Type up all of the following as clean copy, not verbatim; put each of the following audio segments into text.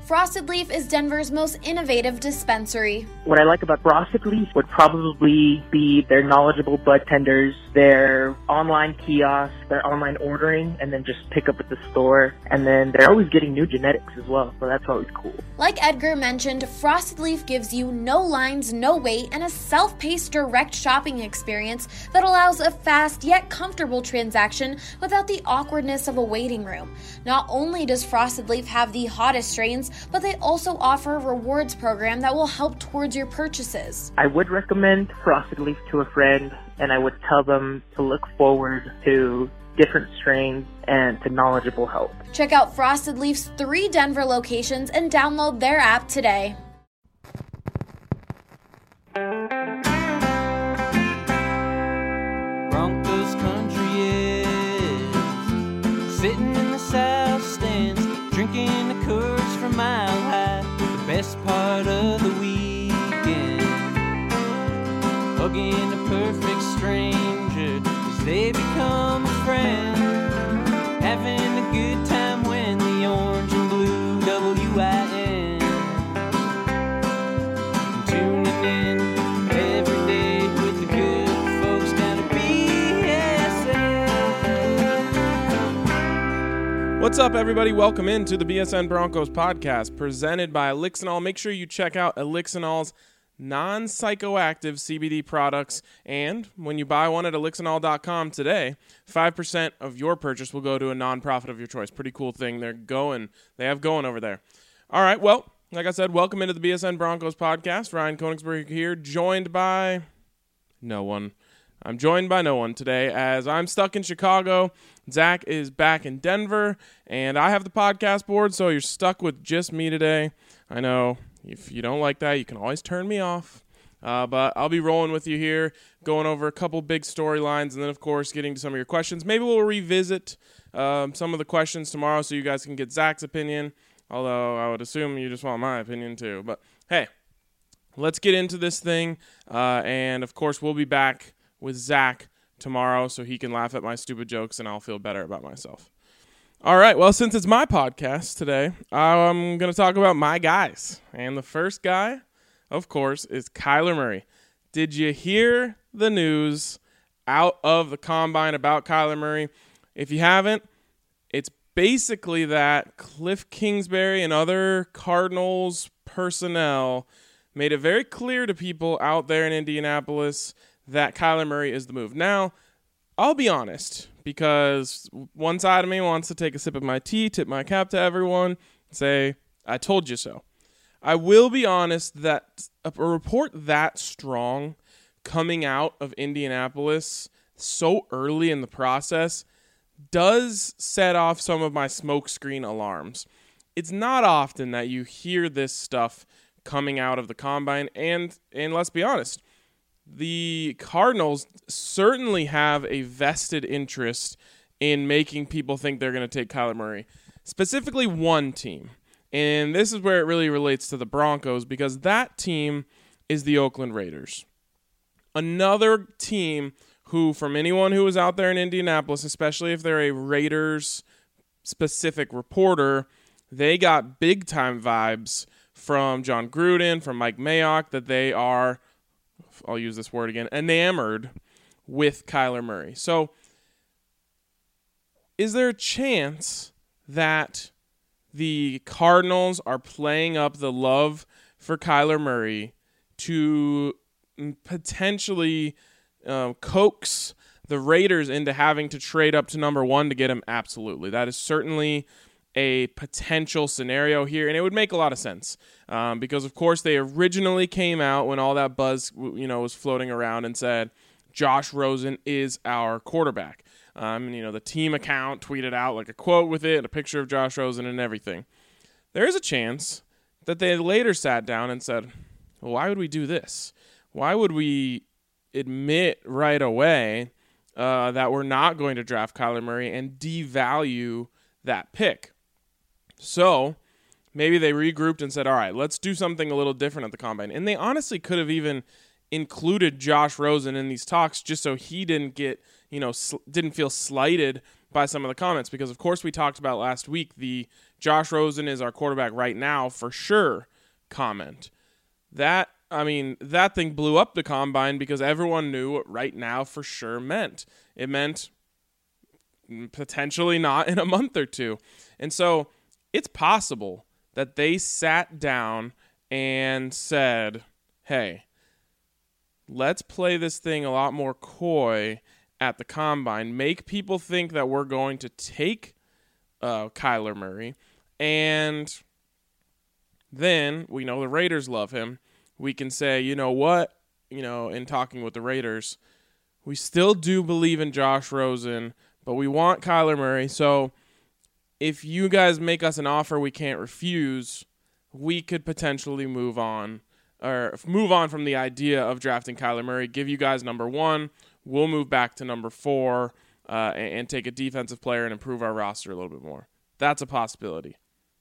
Frosted Leaf is Denver's most innovative dispensary. What I like about Frosted Leaf would probably be their knowledgeable bud tenders, their online kiosks, their online ordering, and then just pick up at the store. And then they're always getting new genetics as well, so that's always cool. Like Edgar mentioned, Frosted Leaf gives you no lines, no wait, and a self-paced direct shopping experience that allows a fast yet comfortable transaction without the awkwardness of a waiting room. Not only does Frosted Leaf have the hottest strains, but they also offer a rewards program that will help towards your purchases. I would recommend Frosted Leaf to a friend, and I would tell them to look forward to different strains and to knowledgeable help. Check out Frosted Leaf's 3 Denver locations and download their app today. Broncos country is sitting in the south stands, drinking the Coors from Mile High, the best part of the weekend. Hugging a perfect stranger as they become a friend. Having a good time when the orange and blue WIN. Tuning in every day with the good folks down at BSN. What's up, everybody? Welcome into the BSN Broncos podcast presented by Elixinol. Make sure you check out Elixinol's non-psychoactive CBD products, and when you buy one at elixinol.com today, 5% of your purchase will go to a nonprofit of your choice. Pretty cool thing they have going over there. All right, well, like I said, welcome into the BSN Broncos podcast. Ryan Koenigsberg here, joined by no one. I'm joined by no one today as I'm stuck in Chicago. Zach is back in Denver, and I have the podcast board, so you're stuck with just me today. I know. If you don't like that, you can always turn me off. But I'll be rolling with you here, going over a couple big storylines, and then, of course, getting to some of your questions. Maybe we'll revisit some of the questions tomorrow so you guys can get Zach's opinion, although I would assume you just want my opinion too. But, hey, let's get into this thing. And, of course, we'll be back with Zach tomorrow so he can laugh at my stupid jokes and I'll feel better about myself. All right, well, since it's my podcast today, I'm going to talk about my guys. And the first guy, of course, is Kyler Murray. Did you hear the news out of the Combine about Kyler Murray? If you haven't, it's basically that Cliff Kingsbury and other Cardinals personnel made it very clear to people out there in Indianapolis that Kyler Murray is the move. Now, I'll be honest, because one side of me wants to take a sip of my tea, tip my cap to everyone, and say, I told you so. I will be honest that a report that strong coming out of Indianapolis so early in the process does set off some of my smokescreen alarms. It's not often that you hear this stuff coming out of the Combine, and let's be honest, the Cardinals certainly have a vested interest in making people think they're going to take Kyler Murray. Specifically one team. And this is where it really relates to the Broncos because that team is the Oakland Raiders. Another team who, from anyone who was out there in Indianapolis, especially if they're a Raiders-specific reporter, they got big-time vibes from John Gruden, from Mike Mayock, that they are, I'll use this word again, enamored with Kyler Murray. So, is there a chance that the Cardinals are playing up the love for Kyler Murray to potentially coax the Raiders into having to trade up to number 1 to get him? Absolutely. That is certainly a potential scenario here, and it would make a lot of sense because, of course, they originally came out when all that buzz, was floating around and said Josh Rosen is our quarterback. The team account tweeted out like a quote with it, and a picture of Josh Rosen and everything. There is a chance that they later sat down and said, well, why would we do this? Why would we admit right away that we're not going to draft Kyler Murray and devalue that pick? So maybe they regrouped and said, all right, let's do something a little different at the Combine. And they honestly could have even included Josh Rosen in these talks just so he didn't get, didn't feel slighted by some of the comments, because of course we talked about last week the Josh Rosen is our quarterback right now for sure comment. That thing blew up the combine because everyone knew what right now for sure meant. It meant potentially not in a month or two. And so it's possible that they sat down and said, hey, let's play this thing a lot more coy at the combine, make people think that we're going to take Kyler Murray, and then we know the Raiders love him. We can say, you know what, in talking with the Raiders, we still do believe in Josh Rosen, but we want Kyler Murray. So if you guys make us an offer we can't refuse, we could potentially move on from the idea of drafting Kyler Murray, give you guys number 1, we'll move back to number 4 and take a defensive player and improve our roster a little bit more. That's a possibility.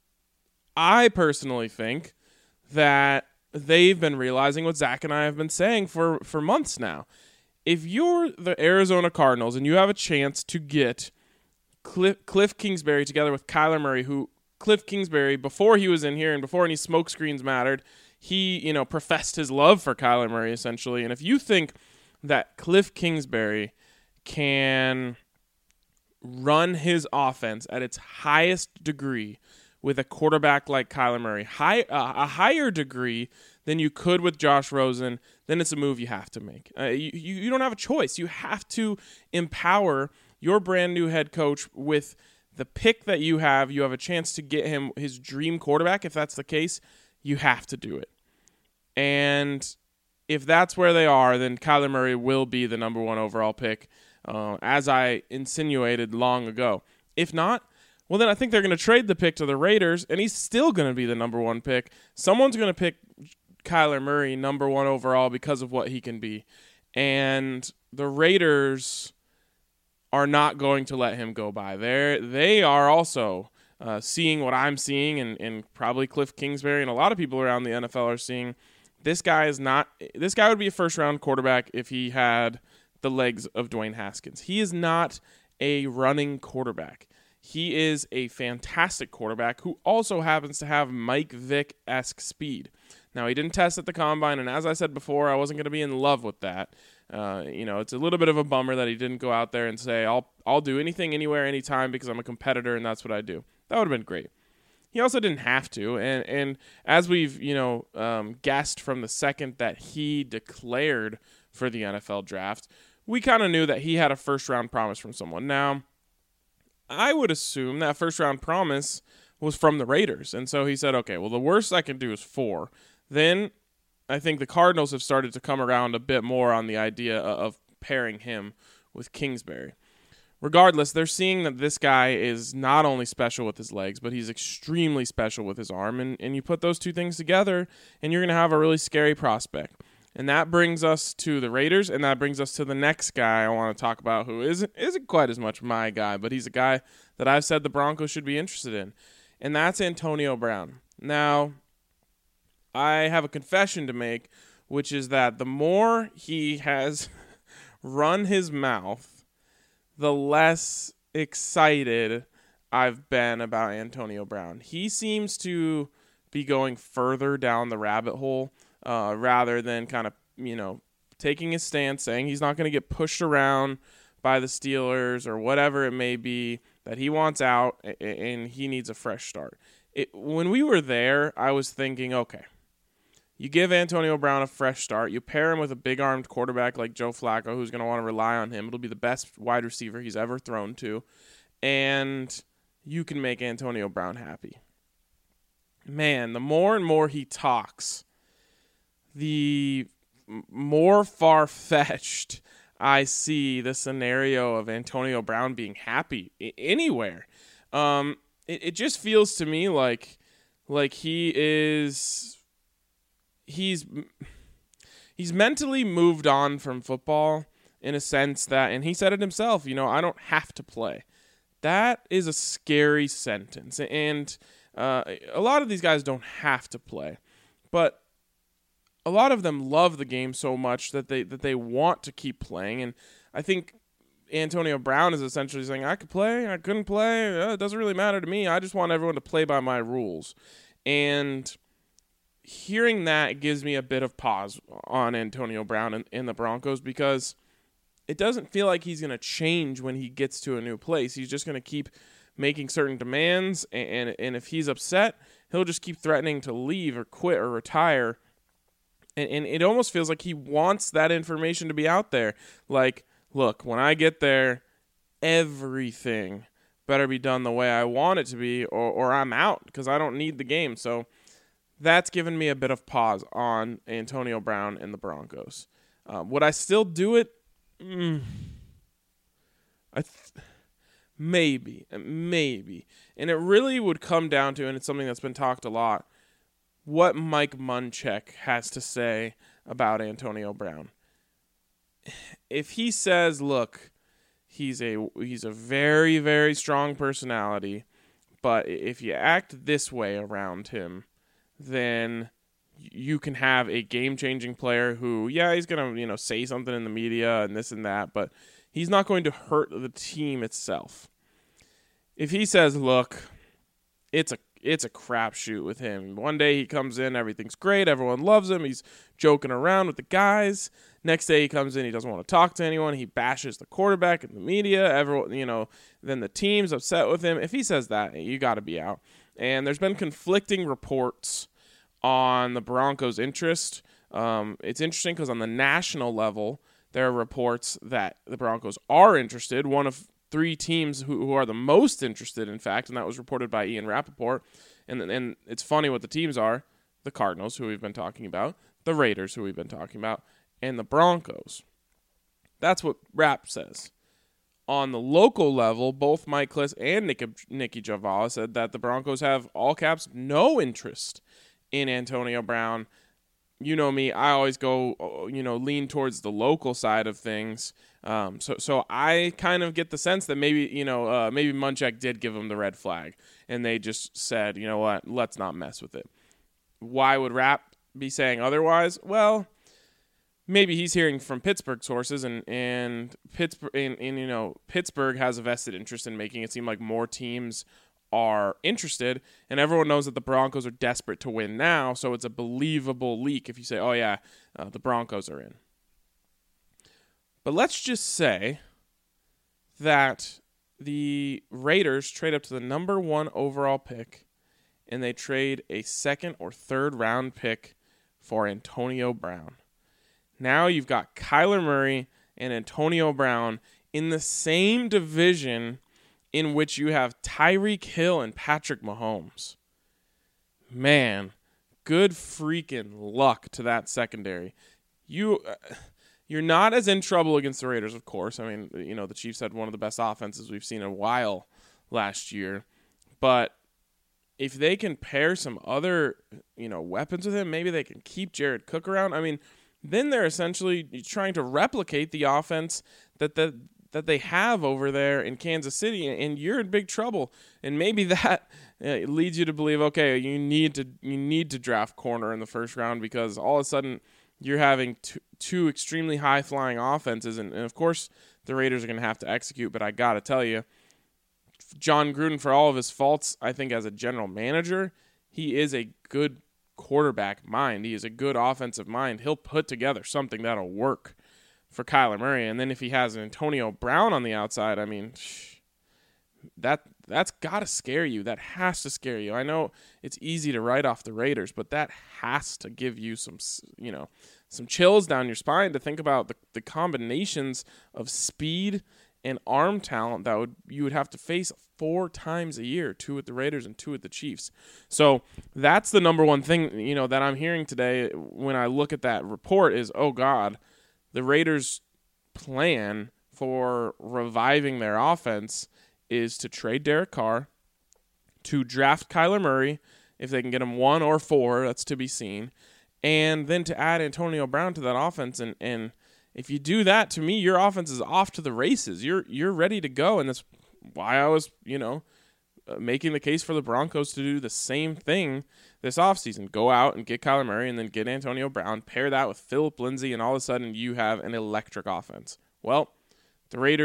I personally think that they've been realizing what Zach and I have been saying for months now. If you're the Arizona Cardinals and you have a chance to get Cliff Kingsbury together with Kyler Murray, who Cliff Kingsbury, before he was in here and before any smokescreens mattered, he, professed his love for Kyler Murray, essentially. And if you think that Cliff Kingsbury can run his offense at its highest degree with a quarterback like Kyler Murray, a higher degree than you could with Josh Rosen, then it's a move you have to make. You don't have a choice. You have to empower your brand new head coach with the pick that you have. You have a chance to get him his dream quarterback. If that's the case, you have to do it. And if that's where they are, then Kyler Murray will be the number 1 overall pick, as I insinuated long ago. If not, well, then I think they're going to trade the pick to the Raiders, and he's still going to be the number 1 pick. Someone's going to pick Kyler Murray number 1 overall because of what he can be. And the Raiders are not going to let him go by. They are also seeing what I'm seeing, and probably Cliff Kingsbury and a lot of people around the NFL are seeing. This guy would be a first-round quarterback if he had the legs of Dwayne Haskins. He is not a running quarterback. He is a fantastic quarterback who also happens to have Mike Vick-esque speed. Now, he didn't test at the combine, and as I said before, I wasn't going to be in love with that. It's a little bit of a bummer that he didn't go out there and say, I'll do anything, anywhere, anytime because I'm a competitor and that's what I do. That would have been great. He also didn't have to, and as we've guessed from the second that he declared for the NFL draft, we kind of knew that he had a first-round promise from someone. Now, I would assume that first-round promise was from the Raiders, and so he said, okay, well, the worst I can do is 4. Then I think the Cardinals have started to come around a bit more on the idea of pairing him with Kingsbury. Regardless, they're seeing that this guy is not only special with his legs, but he's extremely special with his arm. And you put those two things together, and you're going to have a really scary prospect. And that brings us to the Raiders, and that brings us to the next guy I want to talk about, who isn't quite as much my guy, but he's a guy that I've said the Broncos should be interested in. And that's Antonio Brown. Now, I have a confession to make, which is that the more he has run his mouth, the less excited I've been about Antonio Brown. He seems to be going further down the rabbit hole rather than kind of, taking his stance, saying he's not going to get pushed around by the Steelers or whatever it may be, that he wants out and he needs a fresh start. When we were there, I was thinking, okay, you give Antonio Brown a fresh start. You pair him with a big-armed quarterback like Joe Flacco, who's going to want to rely on him. It'll be the best wide receiver he's ever thrown to. And you can make Antonio Brown happy. Man, the more and more he talks, the more far-fetched I see the scenario of Antonio Brown being happy anywhere. It just feels to me like he's mentally moved on from football in a sense that, and he said it himself, I don't have to play. That is a scary sentence. And a lot of these guys don't have to play, but a lot of them love the game so much that they want to keep playing. And I think Antonio Brown is essentially saying, I could play, I couldn't play, it doesn't really matter to me. I just want everyone to play by my rules. And hearing that gives me a bit of pause on Antonio Brown and the Broncos, because it doesn't feel like he's going to change when he gets to a new place. He's just going to keep making certain demands, and if he's upset, he'll just keep threatening to leave or quit or retire. And it almost feels like he wants that information to be out there. Like, look, when I get there, everything better be done the way I want it to be, or I'm out because I don't need the game. So that's given me a bit of pause on Antonio Brown and the Broncos. Would I still do it? Maybe. And it really would come down to, and it's something that's been talked a lot, what Mike Munchak has to say about Antonio Brown. If he says, look, he's a very, very strong personality, but if you act this way around him, then you can have a game-changing player who, he's going to, say something in the media and this and that, but he's not going to hurt the team itself. If he says, look, it's a crapshoot with him. One day he comes in, everything's great, everyone loves him, he's joking around with the guys. Next day he comes in, he doesn't want to talk to anyone, he bashes the quarterback in the media, everyone, then the team's upset with him. If he says that, you got to be out. And there's been conflicting reports on the Broncos' interest. It's interesting because on the national level, there are reports that the Broncos are interested. One of 3 teams who are the most interested, in fact, and that was reported by Ian Rappaport. And it's funny what the teams are: the Cardinals, who we've been talking about, the Raiders, who we've been talking about, and the Broncos. That's what Rapp says. On the local level, both Mike Klis and Nicky Jhabvala said that the Broncos have, all caps, no interest in Antonio Brown. You know me, I always go, lean towards the local side of things. So I kind of get the sense that maybe Munchak did give him the red flag, and they just said, you know what, let's not mess with it. Why would Rapp be saying otherwise? Well, maybe he's hearing from Pittsburgh sources, and Pittsburgh has a vested interest in making it seem like more teams are interested, and everyone knows that the Broncos are desperate to win now, so it's a believable leak if you say, the Broncos are in. But let's just say that the Raiders trade up to the number 1 overall pick, and they trade a 2nd or 3rd round pick for Antonio Brown. Now you've got Kyler Murray and Antonio Brown in the same division in which you have Tyreek Hill and Patrick Mahomes. Man, good freaking luck to that secondary. You're not as in trouble against the Raiders, of course. I mean, the Chiefs had one of the best offenses we've seen in a while last year. But if they can pair some other, weapons with him, maybe they can keep Jared Cook around. I mean, then they're essentially trying to replicate the offense that they have over there in Kansas City, and you're in big trouble. And maybe that leads you to believe, okay, you need to draft corner in the first round, because all of a sudden you're having two extremely high-flying offenses, and of course the Raiders are going to have to execute. But I got to tell you, John Gruden, for all of his faults, I think as a general manager, he is a good quarterback mind. He is a good offensive mind. He'll put together something that'll work for Kyler Murray. And then if he has an Antonio Brown on the outside, I mean, that's got to scare you. That has to scare you. I know it's easy to write off the Raiders, but that has to give you some chills down your spine to think about the combinations of speed and arm talent that you would have to face 4 times a year, 2 with the Raiders and 2 with the Chiefs. So that's the number one thing, that I'm hearing today when I look at that report is, oh God, the Raiders' plan for reviving their offense is to trade Derek Carr, to draft Kyler Murray, if they can get him 1 or 4, that's to be seen, and then to add Antonio Brown to that offense. And if you do that, to me, your offense is off to the races. You're ready to go, and that's why I was, making the case for the Broncos to do the same thing this offseason. Go out and get Kyler Murray and then get Antonio Brown, pair that with Phillip Lindsay, and all of a sudden you have an electric offense. Well, the Raiders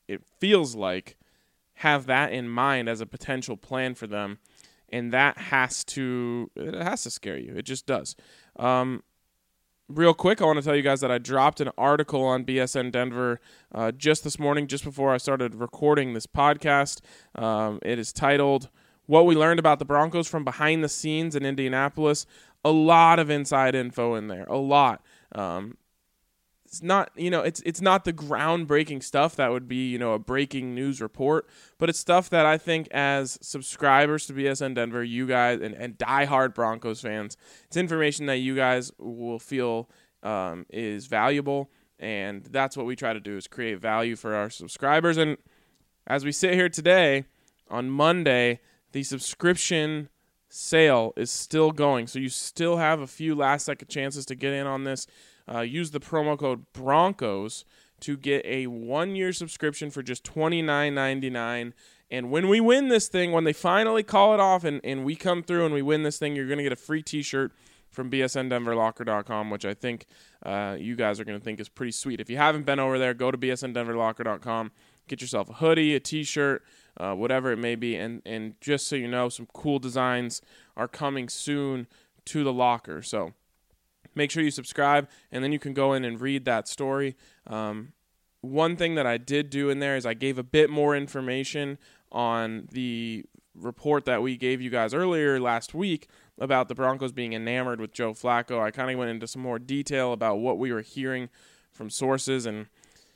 it feels like, have that in mind as a potential plan for them, and that has to scare you. It just does. Real quick, I want to tell you guys that I dropped an article on BSN Denver just this morning, just before I started recording this podcast. It is titled, "What We Learned About the Broncos from Behind the Scenes in Indianapolis." A lot of inside info in there, a lot. It's not, it's not the groundbreaking stuff that would be, a breaking news report, but it's stuff that I think as subscribers to BSN Denver, you guys and diehard Broncos fans, it's information that you guys will feel is valuable, and that's what we try to do, is create value for our subscribers. And as we sit here today, on Monday, the subscription sale is still going, so you still have a few last-second chances to get in on this. Use the promo code BRONCOS to get a 1-year subscription for just $29.99. And when we win this thing, when they finally call it off and we come through and we win this thing, you're going to get a free t-shirt from bsndenverlocker.com, which I think you guys are going to think is pretty sweet. If you haven't been over there, go to bsndenverlocker.com, get yourself a hoodie, a t-shirt, whatever it may be. And just so you know, some cool designs are coming soon to the locker. So make sure you subscribe, and then you can go in and read that story. One thing that I did do in there is I gave a bit more information on the report that we gave you guys earlier last week about the Broncos being enamored with Joe Flacco. I kind of went into some more detail about what we were hearing from sources, and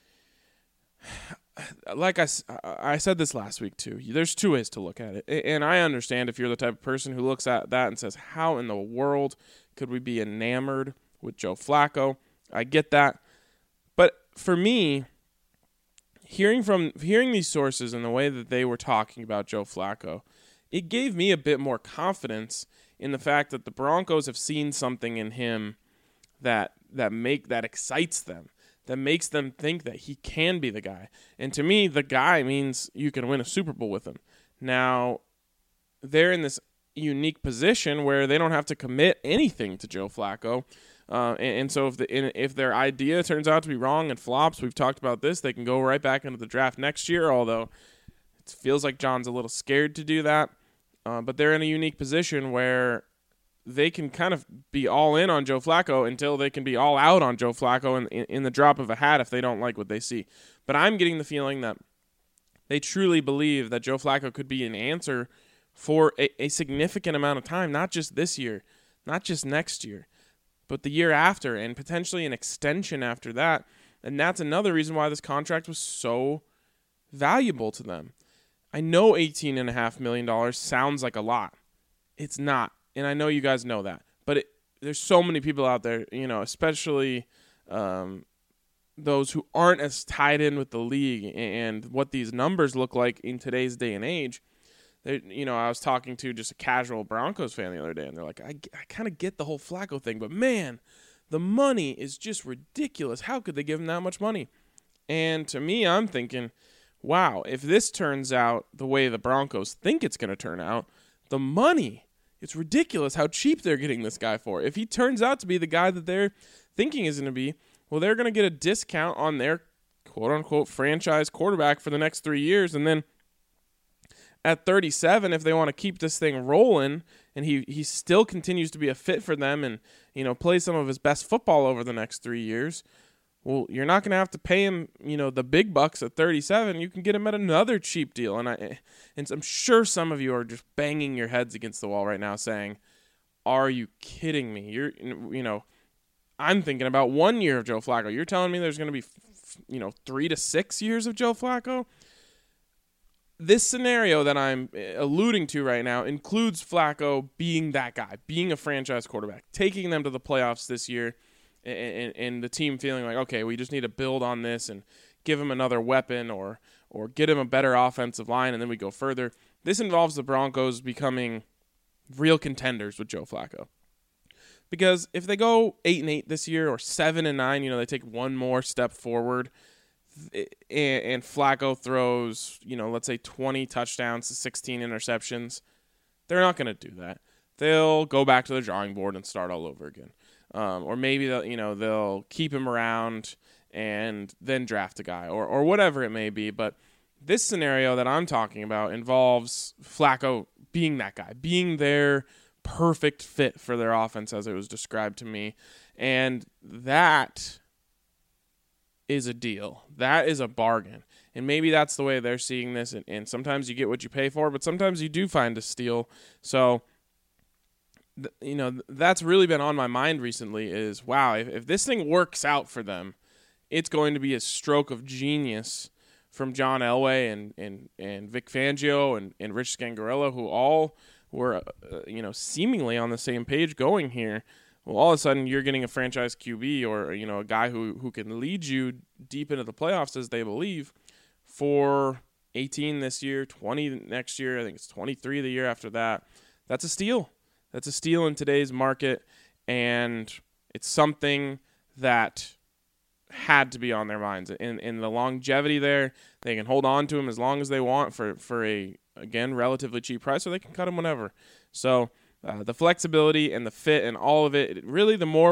like I said this last week too, there's two ways to look at it. And I understand if you're the type of person who looks at that and says, how in the world could we be enamored with Joe Flacco? I get that. But for me, hearing these sources and the way that they were talking about Joe Flacco, it gave me a bit more confidence in the fact that the Broncos have seen something in him that excites them, that makes them think that he can be the guy. And to me, the guy means you can win a Super Bowl with him. Now, they're in this unique position where they don't have to commit anything to Joe Flacco. And so if their idea turns out to be wrong and flops, we've talked about this, they can go right back into the draft next year, although it feels like John's a little scared to do that. But they're in a unique position where they can kind of be all in on Joe Flacco until they can be all out on Joe Flacco in the drop of a hat if they don't like what they see. But I'm getting the feeling that they truly believe that Joe Flacco could be an answer for a significant amount of time, not just this year, not just next year, but the year after, and potentially an extension after that. And that's another reason why this contract was so valuable to them. I know $18.5 million sounds like a lot. It's not. And I know you guys know that. But there's so many people out there, especially those who aren't as tied in with the league and what these numbers look like in today's day and age. I was talking to just a casual Broncos fan the other day, and they're like, I kind of get the whole Flacco thing, but man, the money is just ridiculous. How could they give him that much money? And to me, I'm thinking, wow, if this turns out the way the Broncos think it's going to turn out, the money, it's ridiculous how cheap they're getting this guy for. If he turns out to be the guy that they're thinking is going to be, well, they're going to get a discount on their quote-unquote franchise quarterback for the next 3 years, and then at 37, if they want to keep this thing rolling and he still continues to be a fit for them and, play some of his best football over the next 3 years, well, you're not going to have to pay him, the big bucks at 37. You can get him at another cheap deal. And I'm sure some of you are just banging your heads against the wall right now saying, are you kidding me? I'm thinking about 1 year of Joe Flacco. You're telling me there's going to be, 3 to 6 years of Joe Flacco? This scenario that I'm alluding to right now includes Flacco being that guy, being a franchise quarterback, taking them to the playoffs this year, and the team feeling like, okay, we just need to build on this and give him another weapon or get him a better offensive line, and then we go further. This involves the Broncos becoming real contenders with Joe Flacco. Because if they go 8-8 this year or 7-9, they take one more step forward, and Flacco throws, let's say 20 touchdowns to 16 interceptions, they're not going to do that. They'll go back to the drawing board and start all over again. Or maybe they'll keep him around and then draft a guy or whatever it may be. But this scenario that I'm talking about involves Flacco being that guy, being their perfect fit for their offense as it was described to me. And that is a deal. That is a bargain. And maybe that's the way they're seeing this. And sometimes you get what you pay for, but sometimes you do find a steal. So, that's really been on my mind recently is, wow, if this thing works out for them, it's going to be a stroke of genius from John Elway and Vic Fangio and Rich Scangarello, who all were, seemingly on the same page going here. Well, all of a sudden you're getting a franchise QB or, a guy who can lead you deep into the playoffs as they believe for 18 this year, 20 next year. I think it's 23 the year after that. That's a steal. That's a steal in today's market, and it's something that had to be on their minds. In the longevity there, they can hold on to him as long as they want for a, again, relatively cheap price, or they can cut him whenever. So the flexibility and the fit and all of it, really the more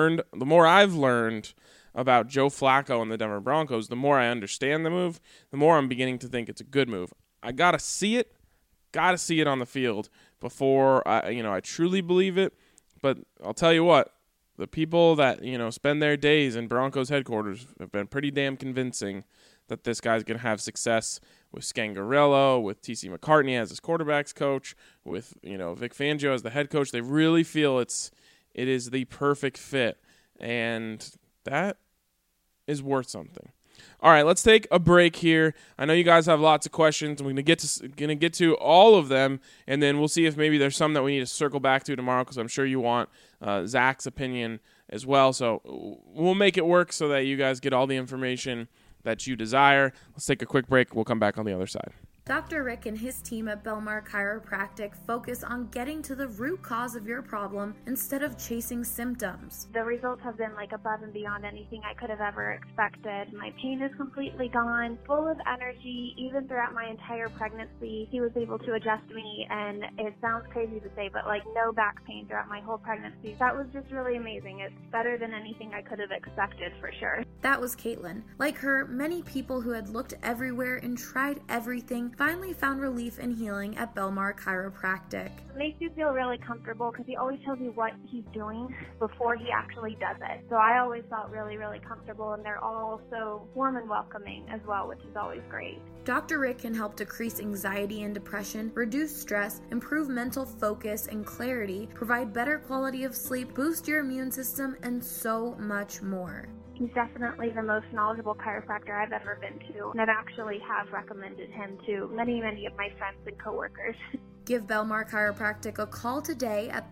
I've learned about Joe Flacco and the Denver Broncos, the more I understand the move, the more I'm beginning to think it's a good move. I got to see it on the field before I truly believe it. But I'll tell you what, the people that, spend their days in Broncos headquarters have been pretty damn convincing that this guy's going to have success with Scangarello, with T.C. McCartney as his quarterback's coach, with, Vic Fangio as the head coach. They really feel it is the perfect fit, and that is worth something. All right, let's take a break here. I know you guys have lots of questions. We're gonna get to all of them, and then we'll see if maybe there's some that we need to circle back to tomorrow, because I'm sure you want Zach's opinion as well. So we'll make it work so that you guys get all the information that you desire. Let's take a quick break. We'll come back on the other side. Dr. Rick and his team at Belmar Chiropractic focus on getting to the root cause of your problem instead of chasing symptoms. The results have been above and beyond anything I could have ever expected. My pain is completely gone, full of energy. Even throughout my entire pregnancy, he was able to adjust me, and it sounds crazy to say, but no back pain throughout my whole pregnancy. That was just really amazing. It's better than anything I could have expected, for sure. That was Caitlin. Like her, many people who had looked everywhere and tried everything finally found relief and healing at Belmar Chiropractic. It makes you feel really comfortable because he always tells you what he's doing before he actually does it. So I always felt really, really comfortable, and they're all so warm and welcoming as well, which is always great. Dr. Rick can help decrease anxiety and depression, reduce stress, improve mental focus and clarity, provide better quality of sleep, boost your immune system, and so much more. He's definitely the most knowledgeable chiropractor I've ever been to, and I've actually have recommended him to many, many of my friends and coworkers. Give Belmar Chiropractic a call today at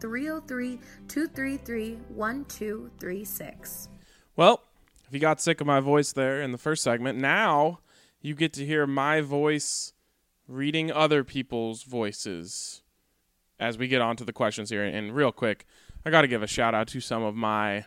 303-233-1236. Well, if you got sick of my voice there in the first segment, now you get to hear my voice reading other people's voices as we get on to the questions here. And real quick, I got to give a shout out to some of my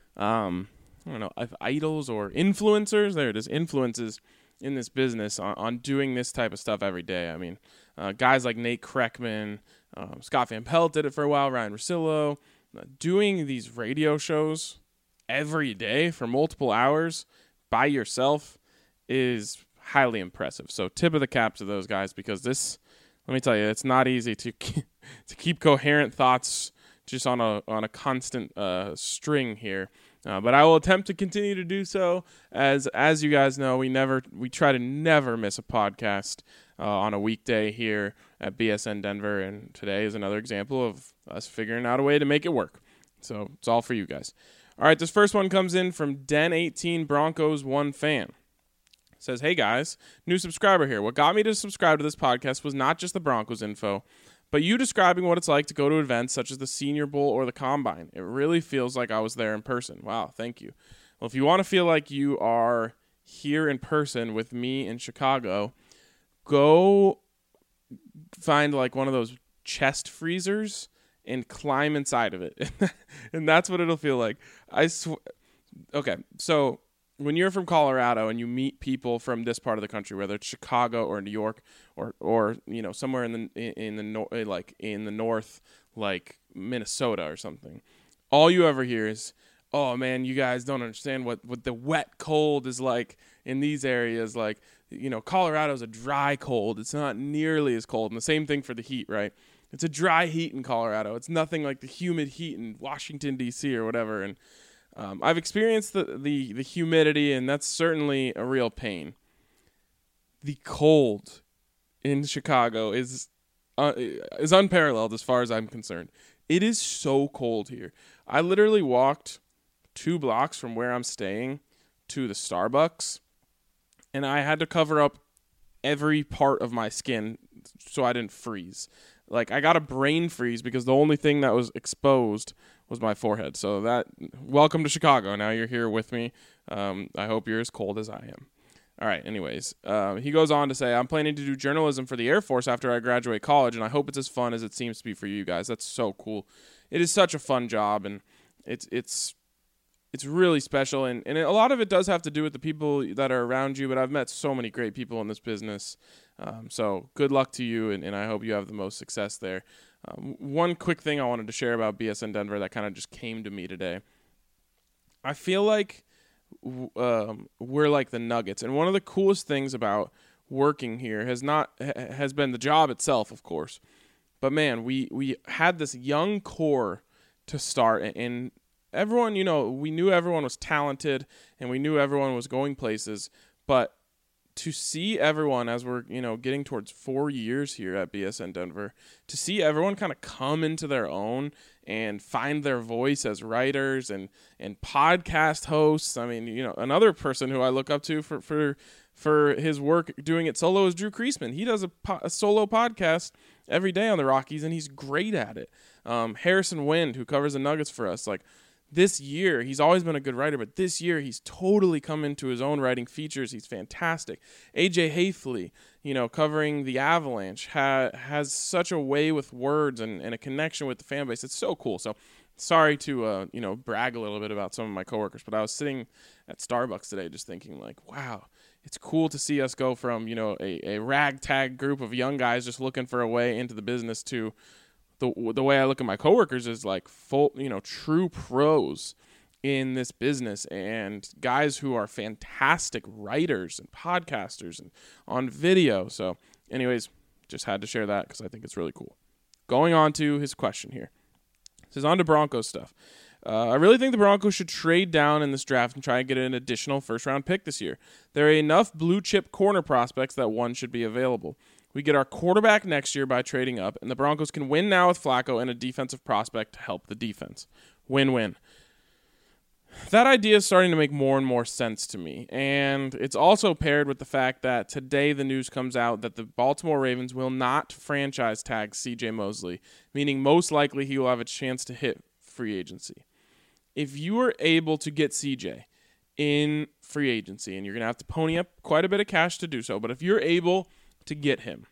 idols or influencers. There it is, influences in this business on doing this type of stuff every day. I mean, guys like Nate Kreckman, Scott Van Pelt did it for a while, Ryan Russillo, doing these radio shows every day for multiple hours by yourself is highly impressive. So tip of the cap to those guys, because this, let me tell you, it's not easy to keep coherent thoughts just on a constant string here. But I will attempt to continue to do so. As you guys know, we try to never miss a podcast on a weekday here at BSN Denver, and today is another example of us figuring out a way to make it work. So it's all for you guys. All right, this first one comes in from Den18 Broncos 1 fan. It says, "Hey guys, new subscriber here. What got me to subscribe to this podcast was not just the Broncos info, but you describing what it's like to go to events such as the Senior Bowl or the Combine. It really feels like I was there in person." Wow, thank you. Well, if you want to feel like you are here in person with me in Chicago, go find one of those chest freezers and climb inside of it. And that's what it'll feel like. Okay, so when you're from Colorado and you meet people from this part of the country, whether it's Chicago or New York or somewhere in the north, like Minnesota or something, all you ever hear is, oh man, you guys don't understand what the wet cold is like in these areas. Like, Colorado's a dry cold. It's not nearly as cold. And the same thing for the heat, right? It's a dry heat in Colorado. It's nothing like the humid heat in Washington, D.C. or whatever. And I've experienced the humidity, and that's certainly a real pain. The cold in Chicago is unparalleled as far as I'm concerned. It is so cold here. I literally walked 2 blocks from where I'm staying to the Starbucks, and I had to cover up every part of my skin so I didn't freeze. Like, I got a brain freeze because the only thing that was exposed was my forehead. So welcome to Chicago. Now you're here with me. I hope you're as cold as I am. All right, anyways, he goes on to say, I'm planning to do journalism for the Air Force after I graduate college, and I hope it's as fun as it seems to be for you guys. That's so cool. It is such a fun job, and it's really special, and a lot of it does have to do with the people that are around you, but I've met so many great people in this business. So good luck to you, and I hope you have the most success there. One quick thing I wanted to share about BSN Denver that kind of just came to me today. I feel like we're like the Nuggets, and one of the coolest things about working here has been the job itself, of course. But man, we had this young core to start, and everyone, we knew everyone was talented, and we knew everyone was going places, but to see everyone, as we're, getting towards 4 years here at BSN Denver, to see everyone kind of come into their own and find their voice as writers and podcast hosts. I mean, another person who I look up to for his work doing it solo is Drew Kreisman. He does a solo podcast every day on the Rockies, and he's great at it. Harrison Wind, who covers the Nuggets for us, like, this year, he's always been a good writer, but this year he's totally come into his own writing features. He's fantastic. AJ Hayfley, covering the Avalanche, has such a way with words and a connection with the fan base. It's so cool. So sorry to, brag a little bit about some of my coworkers, but I was sitting at Starbucks today just thinking, like, wow, it's cool to see us go from, a ragtag group of young guys just looking for a way into the business to the way I look at my coworkers is like full, true pros in this business and guys who are fantastic writers and podcasters and on video. So anyways, just had to share that because I think it's really cool. Going on to his question here. This is on to Broncos stuff. I really think the Broncos should trade down in this draft and try and get an additional first-round pick this year. There are enough blue-chip corner prospects that one should be available. We get our quarterback next year by trading up, and the Broncos can win now with Flacco and a defensive prospect to help the defense. Win-win. That idea is starting to make more and more sense to me, and it's also paired with the fact that today the news comes out that the Baltimore Ravens will not franchise tag C.J. Mosley, meaning most likely he will have a chance to hit free agency. If you are able to get C.J. in free agency, and you're going to have to pony up quite a bit of cash to do so, but if you're able to get him,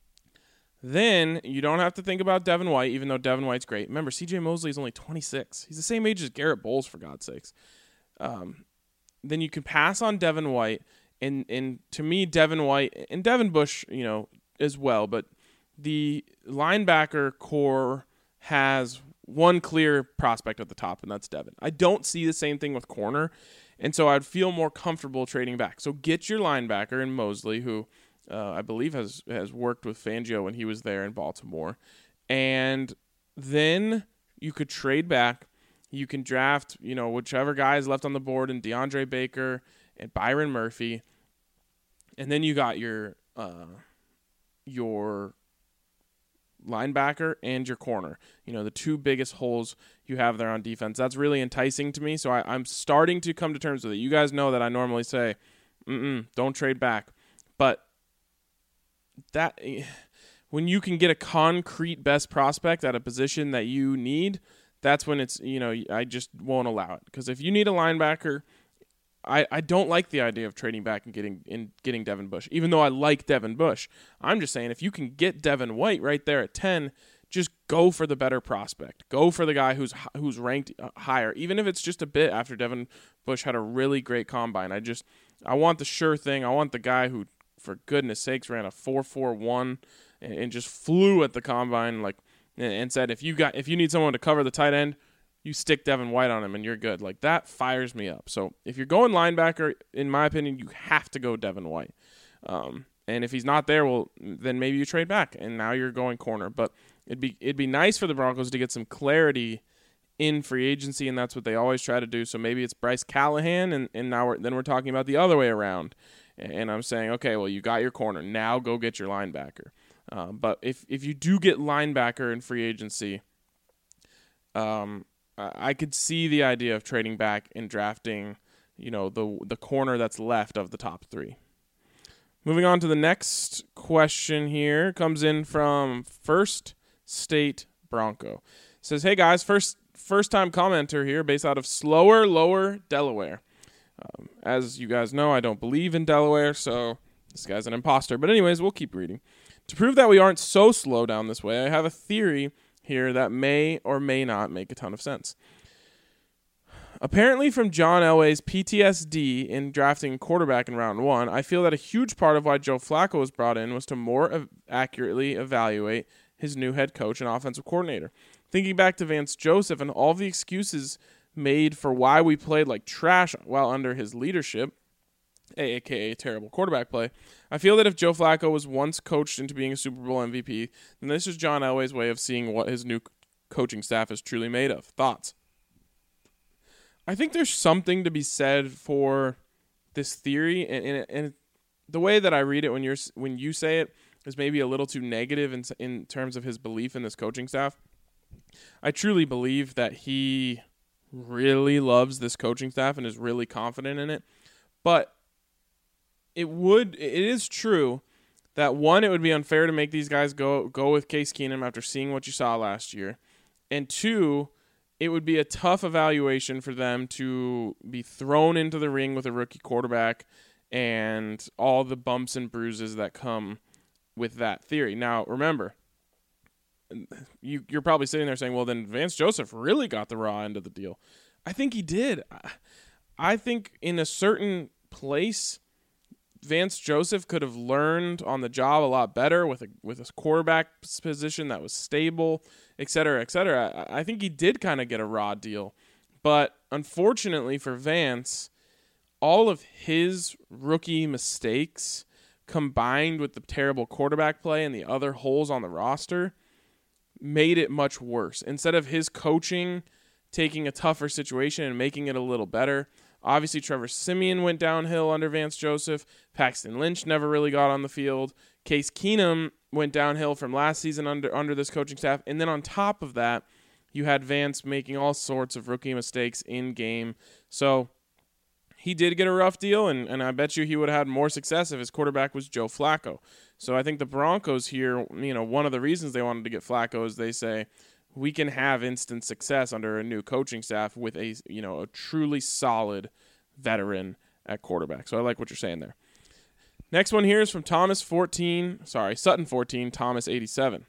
then you don't have to think about Devin White, even though Devin White's great. Remember, C.J. Mosley is only 26. He's the same age as Garrett Bowles, for God's sakes. Then you can pass on Devin White, and to me, Devin White and Devin Bush, as well. But the linebacker core has one clear prospect at the top, and that's Devin. I don't see the same thing with corner, and so I'd feel more comfortable trading back. So get your linebacker in Mosley, who I believe has worked with Fangio when he was there in Baltimore. And then you could trade back. You can draft, whichever guy is left on the board, and DeAndre Baker and Byron Murphy. And then you got your linebacker and your corner. The two biggest holes you have there on defense. That's really enticing to me. So I'm starting to come to terms with it. You guys know that I normally say, don't trade back. But that when you can get a concrete best prospect at a position that you need, that's when it's, I just won't allow it. Because if you need a linebacker, I don't like the idea of trading back and getting Devin Bush, even though I like Devin Bush. I'm just saying if you can get Devin White right there at 10, just go for the better prospect. Go for the guy who's ranked higher, even if it's just a bit after Devin Bush had a really great combine. I want the sure thing. I want the guy who, for goodness sakes, ran a 4.41 and just flew at the combine, and said, if you need someone to cover the tight end, you stick Devin White on him and you're good. Like, that fires me up. So if you're going linebacker, in my opinion, you have to go Devin White. And if he's not there, well, then maybe you trade back, and now you're going corner. But it'd be nice for the Broncos to get some clarity in free agency, and that's what they always try to do. So maybe it's Bryce Callahan, and now we're talking about the other way around. And I'm saying, okay, well, you got your corner. Now go get your linebacker. But if you do get linebacker in free agency, I could see the idea of trading back and drafting, the corner that's left of the top three. Moving on to the next question here, comes in from First State Bronco. It says, hey guys, first time commenter here based out of Slower Lower, Delaware. As you guys know, I don't believe in Delaware, so this guy's an imposter. But anyways, we'll keep reading. To prove that we aren't so slow down this way, I have a theory here that may or may not make a ton of sense. Apparently from John Elway's PTSD in drafting quarterback in round 1, I feel that a huge part of why Joe Flacco was brought in was to more accurately evaluate his new head coach and offensive coordinator. Thinking back to Vance Joseph and all the excuses made for why we played like trash while under his leadership, aka terrible quarterback play, I feel that if Joe Flacco was once coached into being a Super Bowl MVP, then this is John Elway's way of seeing what his new coaching staff is truly made of. Thoughts? I think there's something to be said for this theory, and the way that I read it when you say it is maybe a little too negative in terms of his belief in this coaching staff. I truly believe that he really loves this coaching staff and is really confident in it, but it is true that, one, it would be unfair to make these guys go with Case Keenum after seeing what you saw last year, and two, it would be a tough evaluation for them to be thrown into the ring with a rookie quarterback and all the bumps and bruises that come with that theory. Now, remember, you're probably sitting there saying, well, then Vance Joseph really got the raw end of the deal. I think he did. I think in a certain place, Vance Joseph could have learned on the job a lot better with a quarterback position that was stable, et cetera, et cetera. I think he did kind of get a raw deal. But unfortunately for Vance, all of his rookie mistakes combined with the terrible quarterback play and the other holes on the roster made it much worse. Instead of his coaching taking a tougher situation and making it a little better, obviously Trevor Siemian went downhill under Vance Joseph. Paxton Lynch never really got on the field. Case Keenum went downhill from last season under this coaching staff. And then on top of that, you had Vance making all sorts of rookie mistakes in game. So he did get a rough deal, and I bet you he would have had more success if his quarterback was Joe Flacco. So I think the Broncos here, one of the reasons they wanted to get Flacco is they say, we can have instant success under a new coaching staff with a truly solid veteran at quarterback. So I like what you're saying there. Next one here is from Sutton 14, Thomas 87.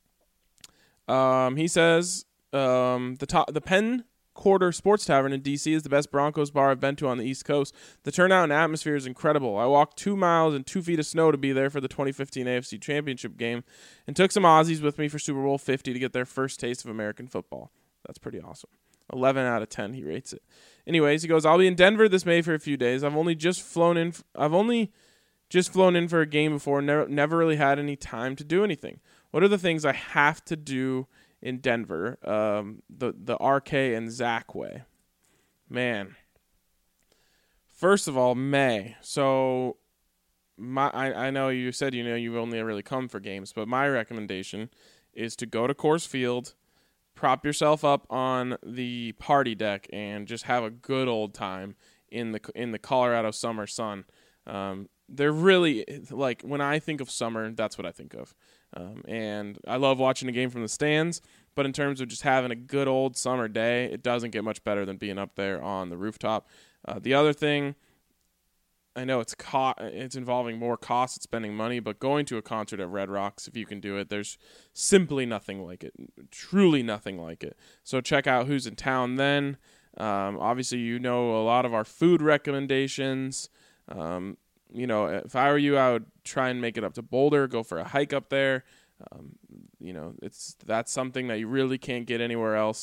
He says, the Penn Quarter Sports Tavern in D.C. is the best Broncos bar I've been to on the East Coast. The turnout and atmosphere is incredible. I walked 2 miles in 2 feet of snow to be there for the 2015 AFC Championship game and took some Aussies with me for Super Bowl 50 to get their first taste of American football. That's pretty awesome. 11 out of 10 he rates it. Anyways, he goes, I'll be in Denver this May for a few days. I've only just flown in for a game before, never really had any time to do anything. What are the things I have to do in Denver, the RK and Zach way? Man. First of all, May. So I know you said you've only really come for games, but my recommendation is to go to Coors Field, prop yourself up on the party deck, and just have a good old time in the Colorado summer sun. They're really, like, when I think of summer, that's what I think of. And I love watching a game from the stands, but in terms of just having a good old summer day, it doesn't get much better than being up there on the rooftop. The other thing, I know it's involving more cost, it's spending money, but going to a concert at Red Rocks, if you can do it, there's simply nothing like it, truly nothing like it. So check out who's in town then. Obviously, a lot of our food recommendations. If I were you, I would try and make it up to Boulder, go for a hike up there. That's something that you really can't get anywhere else.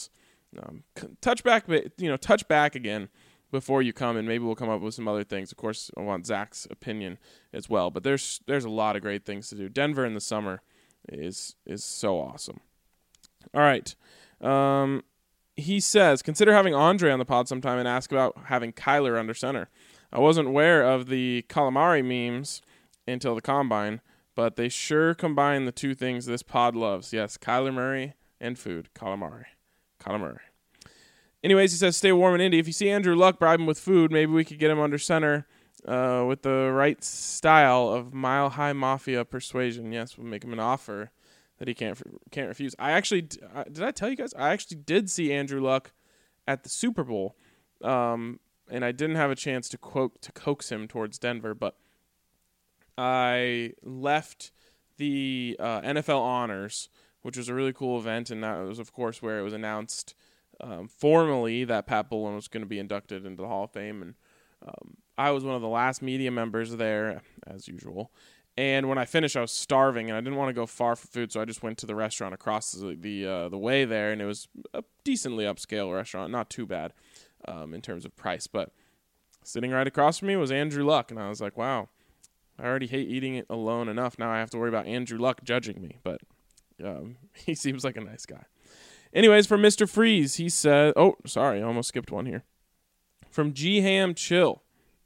touch back again before you come, and maybe we'll come up with some other things. Of course, I want Zach's opinion as well, but there's a lot of great things to do. Denver in the summer is so awesome. All right. He says, consider having Andre on the pod sometime and ask about having Kyler under center. I wasn't aware of the calamari memes until the combine, but they sure combine the two things this pod loves. Yes, Kyler Murray and food. Calamari. Anyways, he says, stay warm in Indy. If you see Andrew Luck, bribe him with food. Maybe we could get him under center with the right style of Mile High Mafia persuasion. Yes, we'll make him an offer that he can't refuse. I actually, did I tell you guys? I actually did see Andrew Luck at the Super Bowl, and I didn't have a chance to coax him towards Denver, but I left the NFL Honors, which was a really cool event, and that was, of course, where it was announced formally that Pat Bowlen was going to be inducted into the Hall of Fame, and I was one of the last media members there, as usual. And when I finished, I was starving, and I didn't want to go far for food, so I just went to the restaurant across the way there, and it was a decently upscale restaurant, not too bad in terms of price. But sitting right across from me was Andrew Luck, and I was like, wow, I already hate eating it alone enough. Now I have to worry about Andrew Luck judging me, but he seems like a nice guy. Anyways, from Mr. Freeze, he said, oh, sorry, I almost skipped one here. From G-Ham Chill.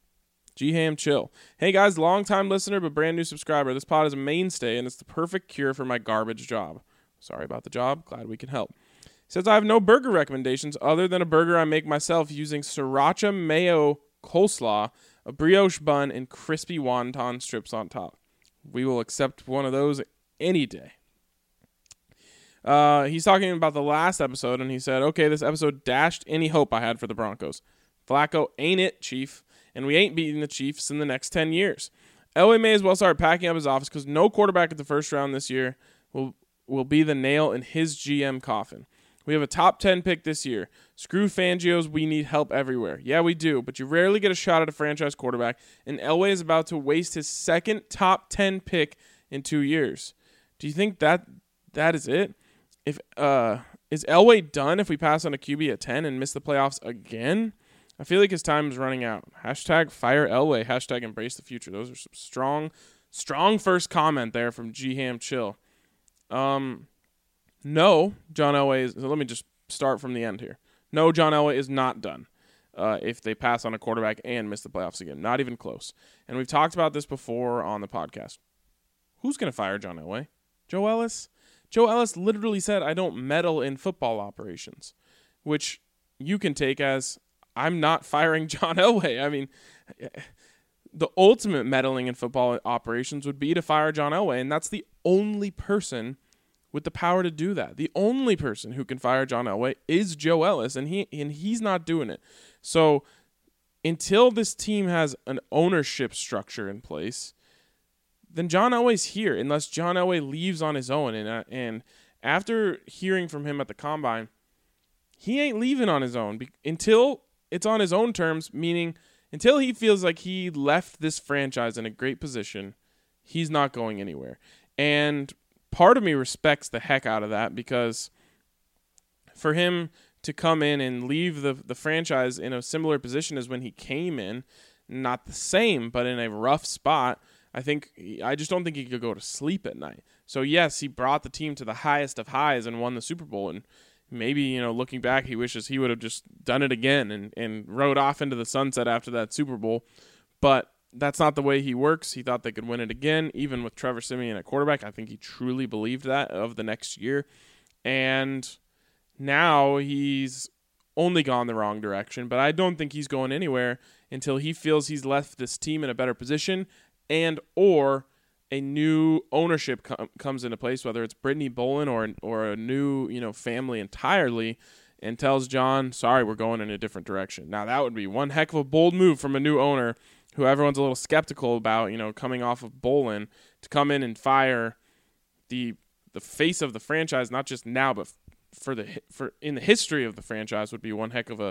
Hey guys, long-time listener but brand new subscriber. This pod is a mainstay and it's the perfect cure for my garbage job. Sorry about the job. Glad we can help. He says, I have no burger recommendations other than a burger I make myself using sriracha mayo coleslaw, a brioche bun, and crispy wonton strips on top. We will accept one of those any day. He's talking about the last episode, and he said, okay, this episode dashed any hope I had for the Broncos. Flacco ain't it, Chief. And we ain't beating the Chiefs in the next 10 years. Elway may as well start packing up his office because no quarterback at the first round this year will be the nail in his GM coffin. We have a top 10 pick this year. Screw Fangio's, we need help everywhere. Yeah, we do, but you rarely get a shot at a franchise quarterback, and Elway is about to waste his second top 10 pick in 2 years. Do you think that is it? If is Elway done if we pass on a QB at 10 and miss the playoffs again? I feel like his time is running out. Hashtag fire Elway. Hashtag embrace the future. Those are some strong first comment there from G-Ham Chill. No, John Elway is... Let me just start from the end here. No, John Elway is not done if they pass on a quarterback and miss the playoffs again. Not even close. And we've talked about this before on the podcast. Who's going to fire John Elway? Joe Ellis? Joe Ellis literally said, I don't meddle in football operations, which you can take as... I'm not firing John Elway. I mean, the ultimate meddling in football operations would be to fire John Elway, and that's the only person with the power to do that. The only person who can fire John Elway is Joe Ellis, and he's not doing it. So until this team has an ownership structure in place, then John Elway's here, unless John Elway leaves on his own. And after hearing from him at the Combine, he ain't leaving on his own until it's on his own terms, meaning until he feels like he left this franchise in a great position, he's not going anywhere. And part of me respects the heck out of that, because for him to come in and leave the franchise in a similar position as when he came in, not the same, but in a rough spot, I just don't think he could go to sleep at night. So yes, he brought the team to the highest of highs and won the Super Bowl, and maybe, looking back, he wishes he would have just done it again and rode off into the sunset after that Super Bowl. But that's not the way he works. He thought they could win it again, even with Trevor Siemian at quarterback. I think he truly believed that of the next year. And now he's only gone the wrong direction, but I don't think he's going anywhere until he feels he's left this team in a better position and or a new ownership comes into place, whether it's Brittany Bowlen or a new family entirely, and tells John, sorry, we're going in a different direction. Now, that would be one heck of a bold move from a new owner who everyone's a little skeptical about, coming off of Bowlen, to come in and fire the face of the franchise, not just now, but for in the history of the franchise, would be one heck of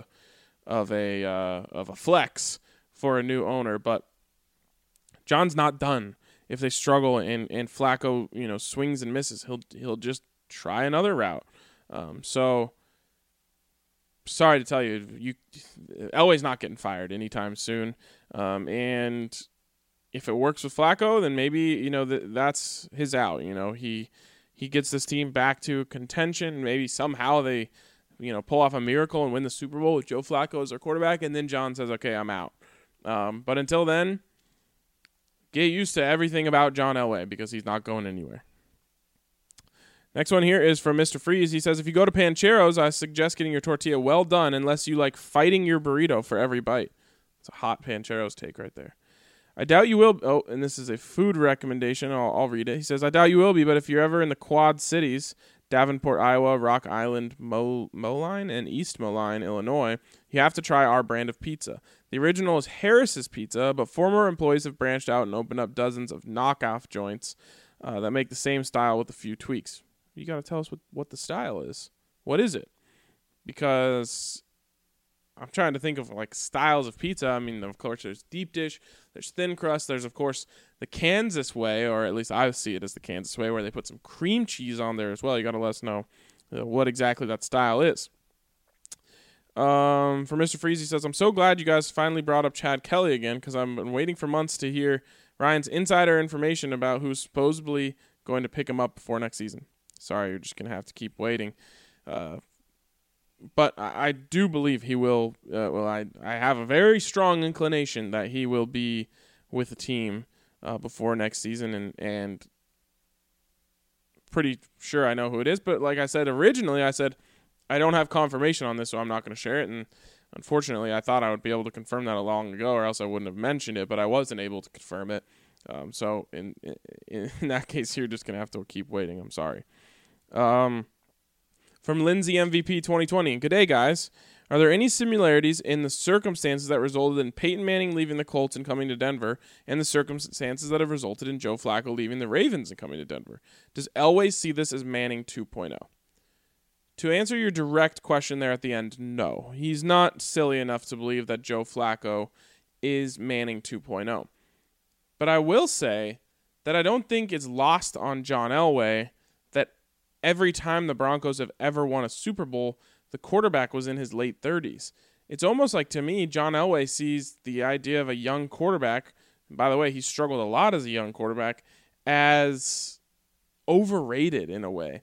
a flex for a new owner. But John's not done. If they struggle and Flacco, swings and misses, he'll just try another route. So sorry to tell you, Elway's not getting fired anytime soon. And if it works with Flacco, then maybe, that's his out. He gets this team back to contention. Maybe somehow they, pull off a miracle and win the Super Bowl with Joe Flacco as their quarterback. And then John says, okay, I'm out. But until then, get used to everything about John Elway because he's not going anywhere. Next one here is from Mr. Freeze. He says, if you go to Pancheros, I suggest getting your tortilla well done unless you like fighting your burrito for every bite. It's a hot Pancheros take right there. I doubt you will. Oh, and this is a food recommendation. I'll read it. He says, I doubt you will be, but if you're ever in the Quad Cities, Davenport, Iowa, Rock Island, Moline, and East Moline, Illinois, you have to try our brand of pizza. The original is Harris's Pizza, but former employees have branched out and opened up dozens of knockoff joints that make the same style with a few tweaks. You got to tell us what the style is. What is it? Because I'm trying to think of like styles of pizza. I mean, of course, there's deep dish, there's thin crust, there's of course the Kansas way, or at least I see it as the Kansas way, where they put some cream cheese on there as well. You got to let us know what exactly that style is. For Mr. Freeze, he says, I'm so glad you guys finally brought up Chad Kelly again because I've been waiting for months to hear Ryan's insider information about who's supposedly going to pick him up before next season. Sorry, you're just going to have to keep waiting. But I do believe he will. I have a very strong inclination that he will be with the team before next season, and pretty sure I know who it is. But like I said originally, I said I don't have confirmation on this, so I'm not going to share it. And unfortunately, I thought I would be able to confirm that long ago, or else I wouldn't have mentioned it. But I wasn't able to confirm it. So in that case, you're just going to have to keep waiting. I'm sorry. From Lindsay MVP 2020, good day, guys. Are there any similarities in the circumstances that resulted in Peyton Manning leaving the Colts and coming to Denver, and the circumstances that have resulted in Joe Flacco leaving the Ravens and coming to Denver? Does Elway see this as Manning 2.0? To answer your direct question there at the end, no. He's not silly enough to believe that Joe Flacco is Manning 2.0. But I will say that I don't think it's lost on John Elway that every time the Broncos have ever won a Super Bowl, the quarterback was in his late 30s. It's almost like, to me, John Elway sees the idea of a young quarterback, and by the way, he struggled a lot as a young quarterback, as overrated in a way.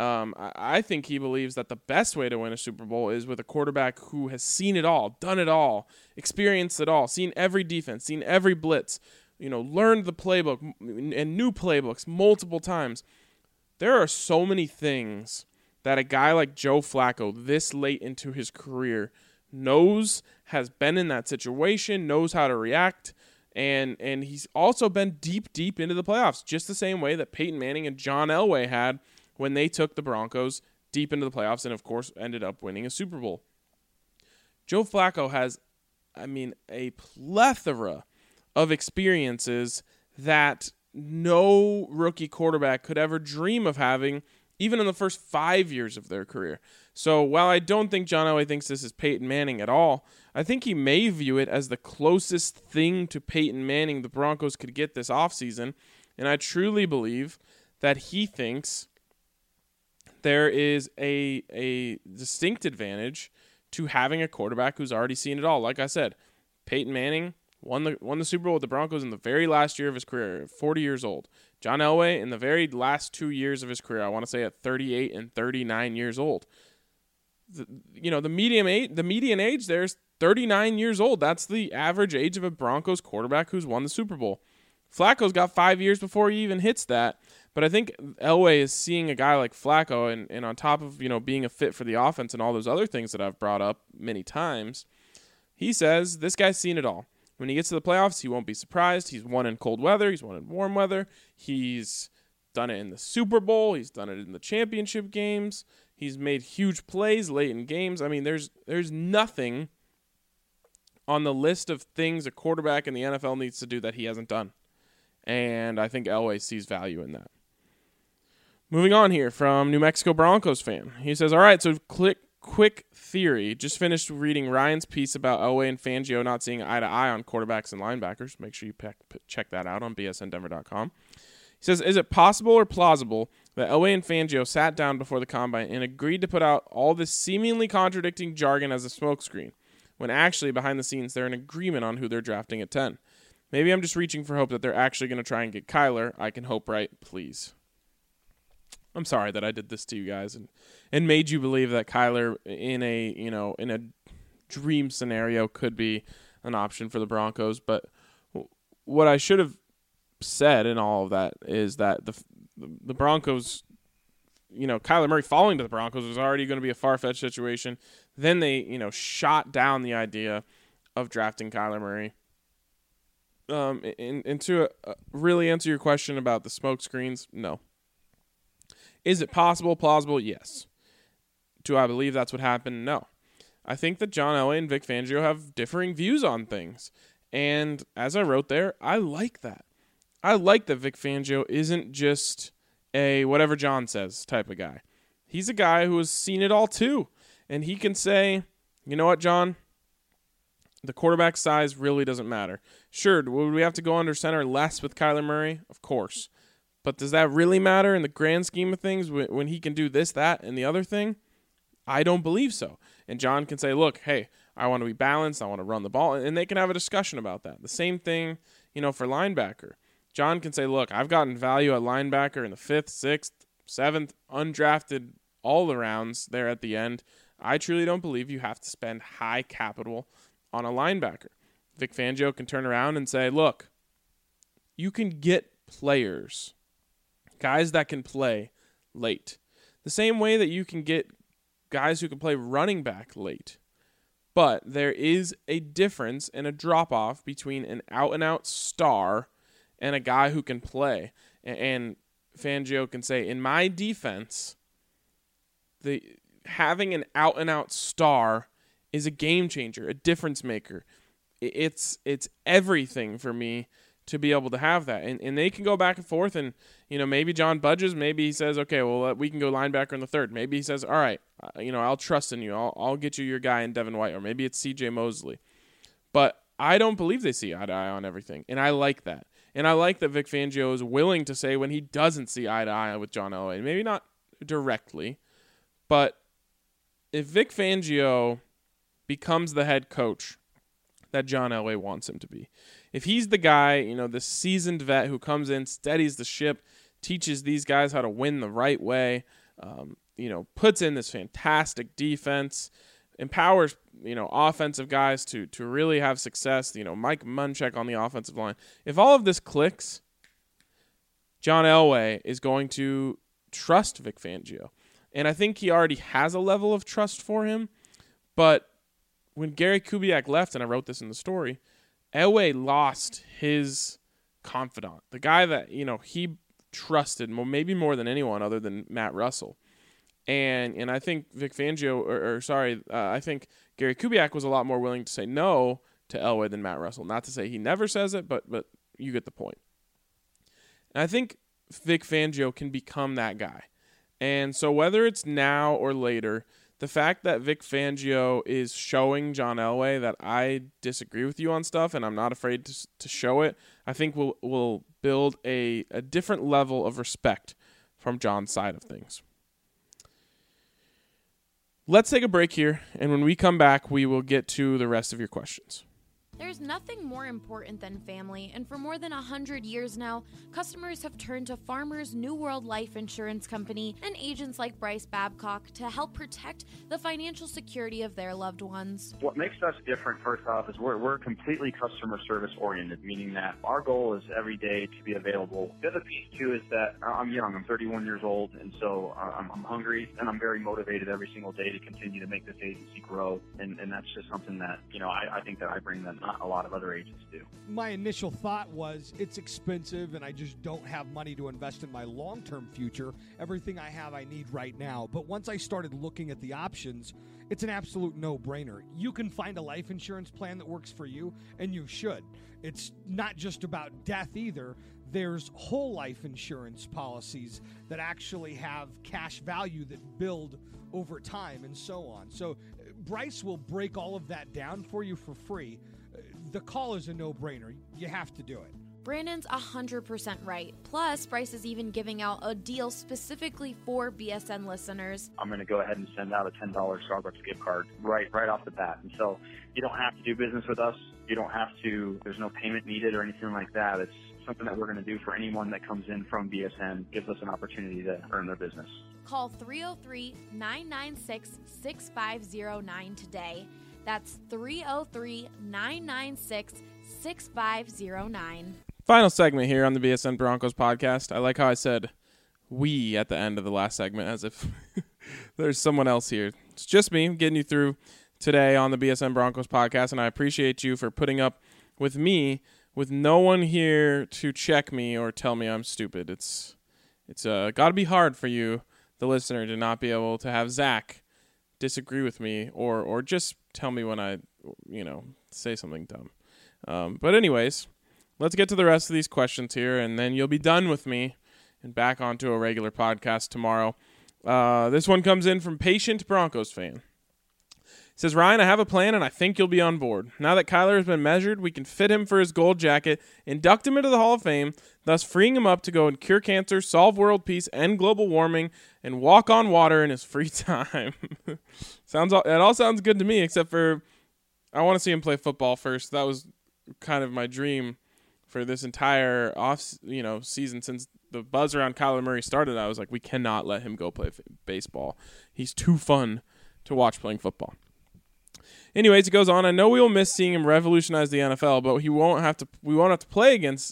I think he believes that the best way to win a Super Bowl is with a quarterback who has seen it all, done it all, experienced it all, seen every defense, seen every blitz, learned the playbook and new playbooks multiple times. There are so many things that a guy like Joe Flacco this late into his career knows, has been in that situation, knows how to react, and he's also been deep into the playoffs, just the same way that Peyton Manning and John Elway had when they took the Broncos deep into the playoffs and, of course, ended up winning a Super Bowl. Joe Flacco has, a plethora of experiences that no rookie quarterback could ever dream of having, even in the first 5 years of their career. So while I don't think John Elway thinks this is Peyton Manning at all, I think he may view it as the closest thing to Peyton Manning the Broncos could get this offseason. And I truly believe that he thinks there is a distinct advantage to having a quarterback who's already seen it all. Like I said, Peyton Manning won the Super Bowl with the Broncos in the very last year of his career, 40 years old. John Elway in the very last 2 years of his career, I want to say at 38 and 39 years old. The median age there is 39 years old. That's the average age of a Broncos quarterback who's won the Super Bowl. Flacco's got 5 years before he even hits that. But I think Elway is seeing a guy like Flacco, and on top of being a fit for the offense and all those other things that I've brought up many times, he says this guy's seen it all. When he gets to the playoffs, he won't be surprised. He's won in cold weather. He's won in warm weather. He's done it in the Super Bowl. He's done it in the championship games. He's made huge plays late in games. There's nothing on the list of things a quarterback in the NFL needs to do that he hasn't done. And I think Elway sees value in that. Moving on here from New Mexico Broncos fan. He says, all right, so quick theory. Just finished reading Ryan's piece about Elway and Fangio not seeing eye to eye on quarterbacks and linebackers. Make sure you check that out on bsndenver.com. He says, is it possible or plausible that Elway and Fangio sat down before the combine and agreed to put out all this seemingly contradicting jargon as a smokescreen, when actually behind the scenes they're in agreement on who they're drafting at 10. Maybe I'm just reaching for hope that they're actually going to try and get Kyler. I can hope, right? Please. I'm sorry that I did this to you guys and made you believe that Kyler in a dream scenario could be an option for the Broncos. But what I should have said in all of that is that the Broncos, Kyler Murray falling to the Broncos was already going to be a far-fetched situation. Then they, shot down the idea of drafting Kyler Murray. And to really answer your question about the smoke screens, no. Is it possible, plausible? Yes. Do I believe that's what happened? No. I think that John Elway and Vic Fangio have differing views on things. And as I wrote there, I like that. I like that Vic Fangio isn't just a whatever John says type of guy. He's a guy who has seen it all too. And he can say, you know what, John? The quarterback size really doesn't matter. Sure, would we have to go under center less with Kyler Murray? Of course. But does that really matter in the grand scheme of things when he can do this, that, and the other thing? I don't believe so. And John can say, look, hey, I want to be balanced. I want to run the ball. And they can have a discussion about that. The same thing, for linebacker. John can say, look, I've gotten value at linebacker in the 5th, 6th, 7th, undrafted, all the rounds there at the end. I truly don't believe you have to spend high capital on a linebacker. Vic Fangio can turn around and say, look, you can get players, guys that can play late. The same way that you can get guys who can play running back late. But there is a difference and a drop-off between an out-and-out star and a guy who can play. And Fangio can say, in my defense, having an out-and-out star is a game changer, a difference maker. It's everything for me to be able to have that. And they can go back and forth, and maybe John budges, maybe he says, okay, well, we can go linebacker in the 3rd. Maybe he says, all right, I'll trust in you. I'll get you your guy in Devin White, or maybe it's CJ Mosley. But I don't believe they see eye to eye on everything, and I like that. And I like that Vic Fangio is willing to say when he doesn't see eye to eye with John Elway, maybe not directly, but if Vic Fangio becomes the head coach that John Elway wants him to be, if he's the guy, the seasoned vet who comes in, steadies the ship, teaches these guys how to win the right way, puts in this fantastic defense, empowers, offensive guys to really have success, Mike Munchak on the offensive line. If all of this clicks, John Elway is going to trust Vic Fangio. And I think he already has a level of trust for him. But when Gary Kubiak left, and I wrote this in the story, Elway lost his confidant, the guy that, he trusted maybe more than anyone other than Matt Russell. And I think Vic Fangio, I think Gary Kubiak was a lot more willing to say no to Elway than Matt Russell. Not to say he never says it, but you get the point. And I think Vic Fangio can become that guy. And so whether it's now or later, the fact that Vic Fangio is showing John Elway that I disagree with you on stuff and I'm not afraid to show it, I think will build a different level of respect from John's side of things. Let's take a break here, and when we come back, we will get to the rest of your questions. There's nothing more important than family, and for more than 100 years now, customers have turned to Farmers New World Life Insurance Company and agents like Bryce Babcock to help protect the financial security of their loved ones. What makes us different, first off, is we're completely customer service oriented, meaning that our goal is every day to be available. The other piece, too, is that I'm young. I'm 31 years old, and so I'm hungry, and I'm very motivated every single day to continue to make this agency grow, and that's just something that, I think that I bring that not a lot of other agents do. My initial thought was it's expensive and I just don't have money to invest in my long-term future. Everything I have I need right now. But once I started looking at the options, it's an absolute no-brainer. You can find a life insurance plan that works for you, and you should. It's not just about death either. There's whole life insurance policies that actually have cash value that build over time and so on. So Bryce will break all of that down for you for free. The call is a no-brainer. You have to do it. Brandon's 100% right. Plus, Bryce is even giving out a deal specifically for BSN listeners. I'm going to go ahead and send out a $10 Starbucks gift card right off the bat. And so you don't have to do business with us. You don't have to, there's no payment needed or anything like that. It's something that we're going to do for anyone that comes in from BSN, gives us an opportunity to earn their business. Call 303-996-6509 today. That's 303-996-6509. Final segment here on the BSN Broncos podcast. I like how I said we at the end of the last segment as if there's someone else here. It's just me getting you through today on the BSN Broncos podcast, and I appreciate you for putting up with me with no one here to check me or tell me I'm stupid. It's got to be hard for you, the listener, to not be able to have Zach disagree with me or just tell me when I, say something dumb. But anyways, let's get to the rest of these questions here, and then you'll be done with me and back onto a regular podcast tomorrow. This one comes in from Patient Broncos fan. It says, Ryan, I have a plan, and I think you'll be on board. Now that Kyler has been measured, we can fit him for his gold jacket, induct him into the Hall of Fame, thus freeing him up to go and cure cancer, solve world peace, end global warming, and walk on water in his free time. It all sounds good to me, except for I want to see him play football first. That was kind of my dream for this entire season. Since the buzz around Kyler Murray started, I was like, we cannot let him go play baseball. He's too fun to watch playing football. Anyways, it goes on. I know we will miss seeing him revolutionize the NFL, but we won't have to play against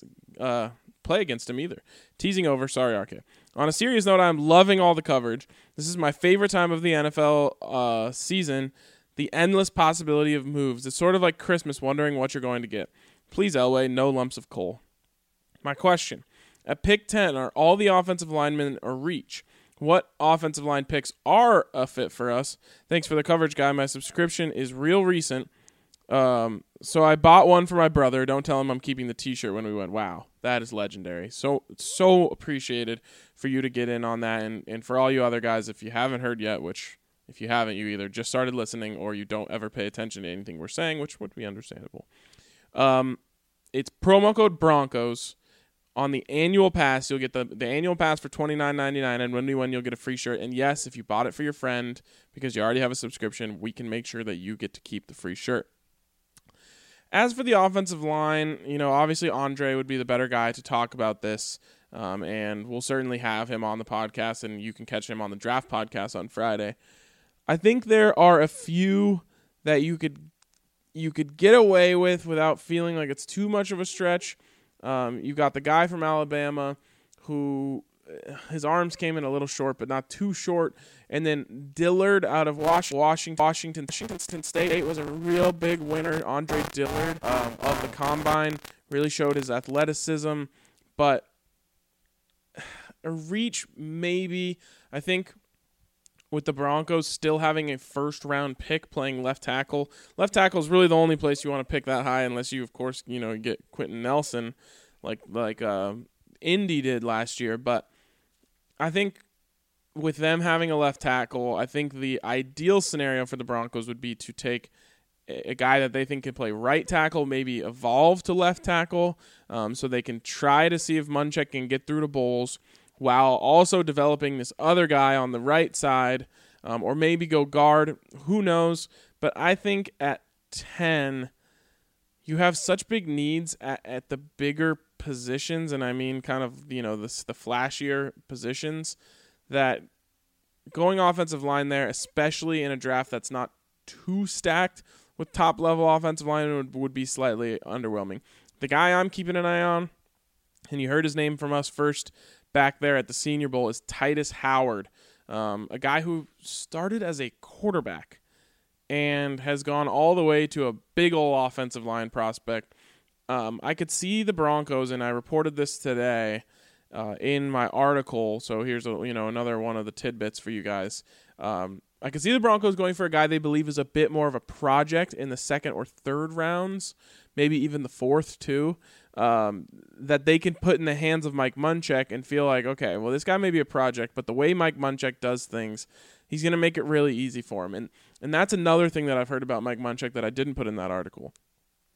him either. Teasing over. Sorry, RK. On a serious note, I'm loving all the coverage. This is my favorite time of the NFL season. The endless possibility of moves. It's sort of like Christmas, wondering what you're going to get. Please, Elway, no lumps of coal. My question. At pick 10, are all the offensive linemen a reach? What offensive line picks are a fit for us? Thanks for the coverage, guy. My subscription is real recent. So I bought one for my brother. Don't tell him I'm keeping the t-shirt when we went. Wow, that is legendary. So appreciated for you to get in on that. And for all you other guys, if you haven't heard yet, which if you haven't, you either just started listening or you don't ever pay attention to anything we're saying, which would be understandable. It's promo code Broncos. On the annual pass, you'll get the annual pass for $29.99, and when you win, you'll get a free shirt. And yes, if you bought it for your friend because you already have a subscription, we can make sure that you get to keep the free shirt. As for the offensive line, obviously Andre would be the better guy to talk about this, and we'll certainly have him on the podcast, and you can catch him on the draft podcast on Friday. I think there are a few that you could get away with without feeling like it's too much of a stretch. You've got the guy from Alabama who his arms came in a little short, but not too short. And then Dillard out of Washington State was a real big winner. Andre Dillard of the Combine really showed his athleticism, but a reach maybe. I think with the Broncos still having a first-round pick playing left tackle. Left tackle is really the only place you want to pick that high unless you, of course, get Quentin Nelson like Indy did last year. But I think with them having a left tackle, I think the ideal scenario for the Broncos would be to take a guy that they think can play right tackle, maybe evolve to left tackle, so they can try to see if Munchak can get through to Bowles, while also developing this other guy on the right side, or maybe go guard. Who knows? But I think at 10, you have such big needs at the bigger positions, and I mean kind of, the flashier positions, that going offensive line there, especially in a draft that's not too stacked with top-level offensive line, would be slightly underwhelming. The guy I'm keeping an eye on, and you heard his name from us first back there at the Senior Bowl, is Titus Howard, a guy who started as a quarterback and has gone all the way to a big old offensive line prospect. I could see the Broncos, and I reported this today in my article, so here's another one of the tidbits for you guys. I could see the Broncos going for a guy they believe is a bit more of a project in the second or third rounds, maybe even the fourth too, that they can put in the hands of Mike Munchak and feel like, okay, well, this guy may be a project, but the way Mike Munchak does things, he's going to make it really easy for him. And that's another thing that I've heard about Mike Munchak that I didn't put in that article.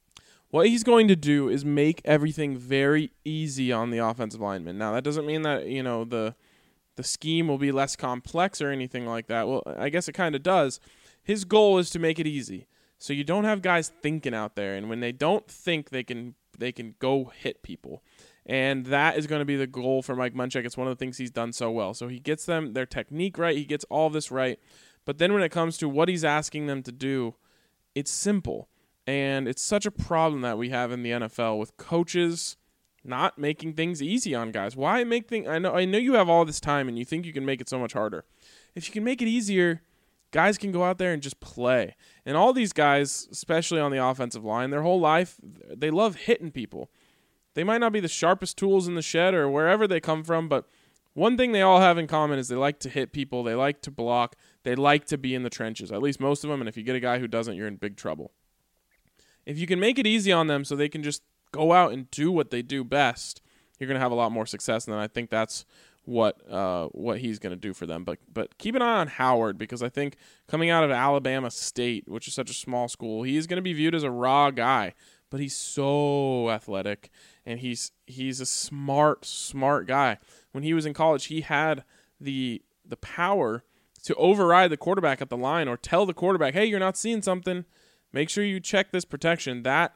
What he's going to do is make everything very easy on the offensive linemen. Now, that doesn't mean that, the scheme will be less complex or anything like that. Well, I guess it kind of does. His goal is to make it easy. So you don't have guys thinking out there, and when they don't think, they can go hit people. And that is going to be the goal for Mike Munchak. It's one of the things he's done so well. So he gets them their technique right. He gets all this right. But then when it comes to what he's asking them to do, it's simple. And it's such a problem that we have in the NFL with coaches not making things easy on guys. Why make things? I know you have all this time and you think you can make it so much harder. If you can make it easier, guys can go out there and just play. And all these guys, especially on the offensive line, their whole life, they love hitting people. They might not be the sharpest tools in the shed or wherever they come from, but one thing they all have in common is they like to hit people, they like to block, they like to be in the trenches, at least most of them, and if you get a guy who doesn't, you're in big trouble. If you can make it easy on them so they can just go out and do what they do best, you're going to have a lot more success, and I think that's what he's going to do for them. But keep an eye on Howard, because I think coming out of Alabama State, which is such a small school, he is going to be viewed as a raw guy, but he's so athletic, and he's a smart guy. When he was in college, he had the power to override the quarterback at the line or tell the quarterback, hey, you're not seeing something. Make sure you check this protection. That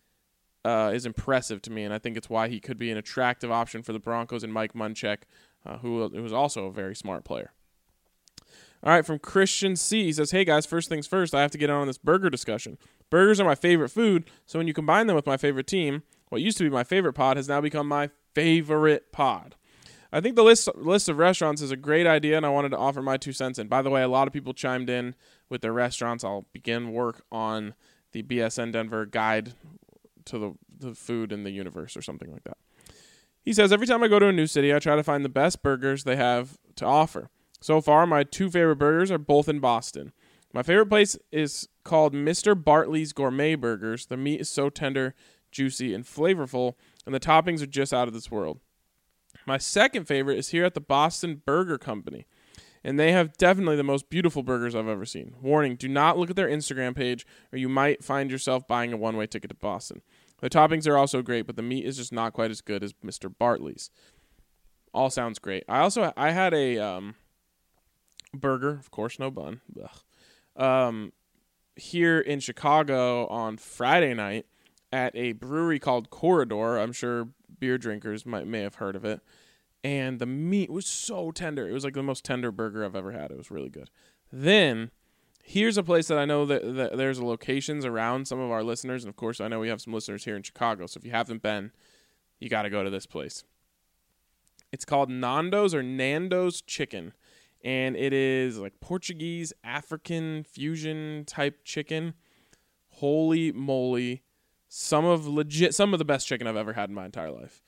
is impressive to me, and I think it's why he could be an attractive option for the Broncos and Mike Munchak, who was also a very smart player. All right, from Christian C. He says, hey, guys, first things first, I have to get on this burger discussion. Burgers are my favorite food, so when you combine them with my favorite team, what used to be my favorite pod has now become my favorite pod. I think the list of restaurants is a great idea, and I wanted to offer my 2 cents in. By the way, a lot of people chimed in with their restaurants. I'll begin work on the BSN Denver guide to the food in the universe or something like that. He says, every time I go to a new city, I try to find the best burgers they have to offer. So far, my 2 favorite burgers are both in Boston. My favorite place is called Mr. Bartley's Gourmet Burgers. The meat is so tender, juicy, and flavorful, and the toppings are just out of this world. My second favorite is here at the Boston Burger Company, and they have definitely the most beautiful burgers I've ever seen. Warning, do not look at their Instagram page, or you might find yourself buying a one-way ticket to Boston. The toppings are also great, but the meat is just not quite as good as Mr. Bartley's. All sounds great. I had a burger, of course, no bun, here in Chicago on Friday night at a brewery called Corridor. I'm sure beer drinkers may have heard of it. And the meat was so tender. It was like the most tender burger I've ever had. It was really good. Then, here's a place that I know that there's locations around some of our listeners. And, of course, I know we have some listeners here in Chicago. So if you haven't been, you got to go to this place. It's called Nando's or Nando's Chicken. And it is like Portuguese, African fusion type chicken. Holy moly. Some of the best chicken I've ever had in my entire life.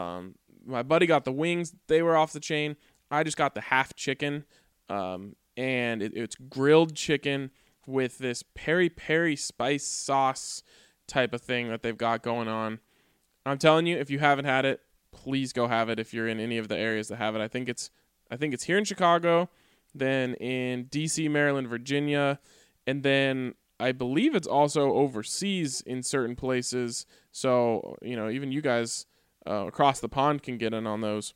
My buddy got the wings. They were off the chain. I just got the half chicken. And it's grilled chicken with this peri-peri spice sauce type of thing that they've got going on. I'm telling you, if you haven't had it, please go have it if you're in any of the areas that have it. I think it's here in Chicago, then in D.C., Maryland, Virginia, and then I believe it's also overseas in certain places. So, even you guys across the pond can get in on those.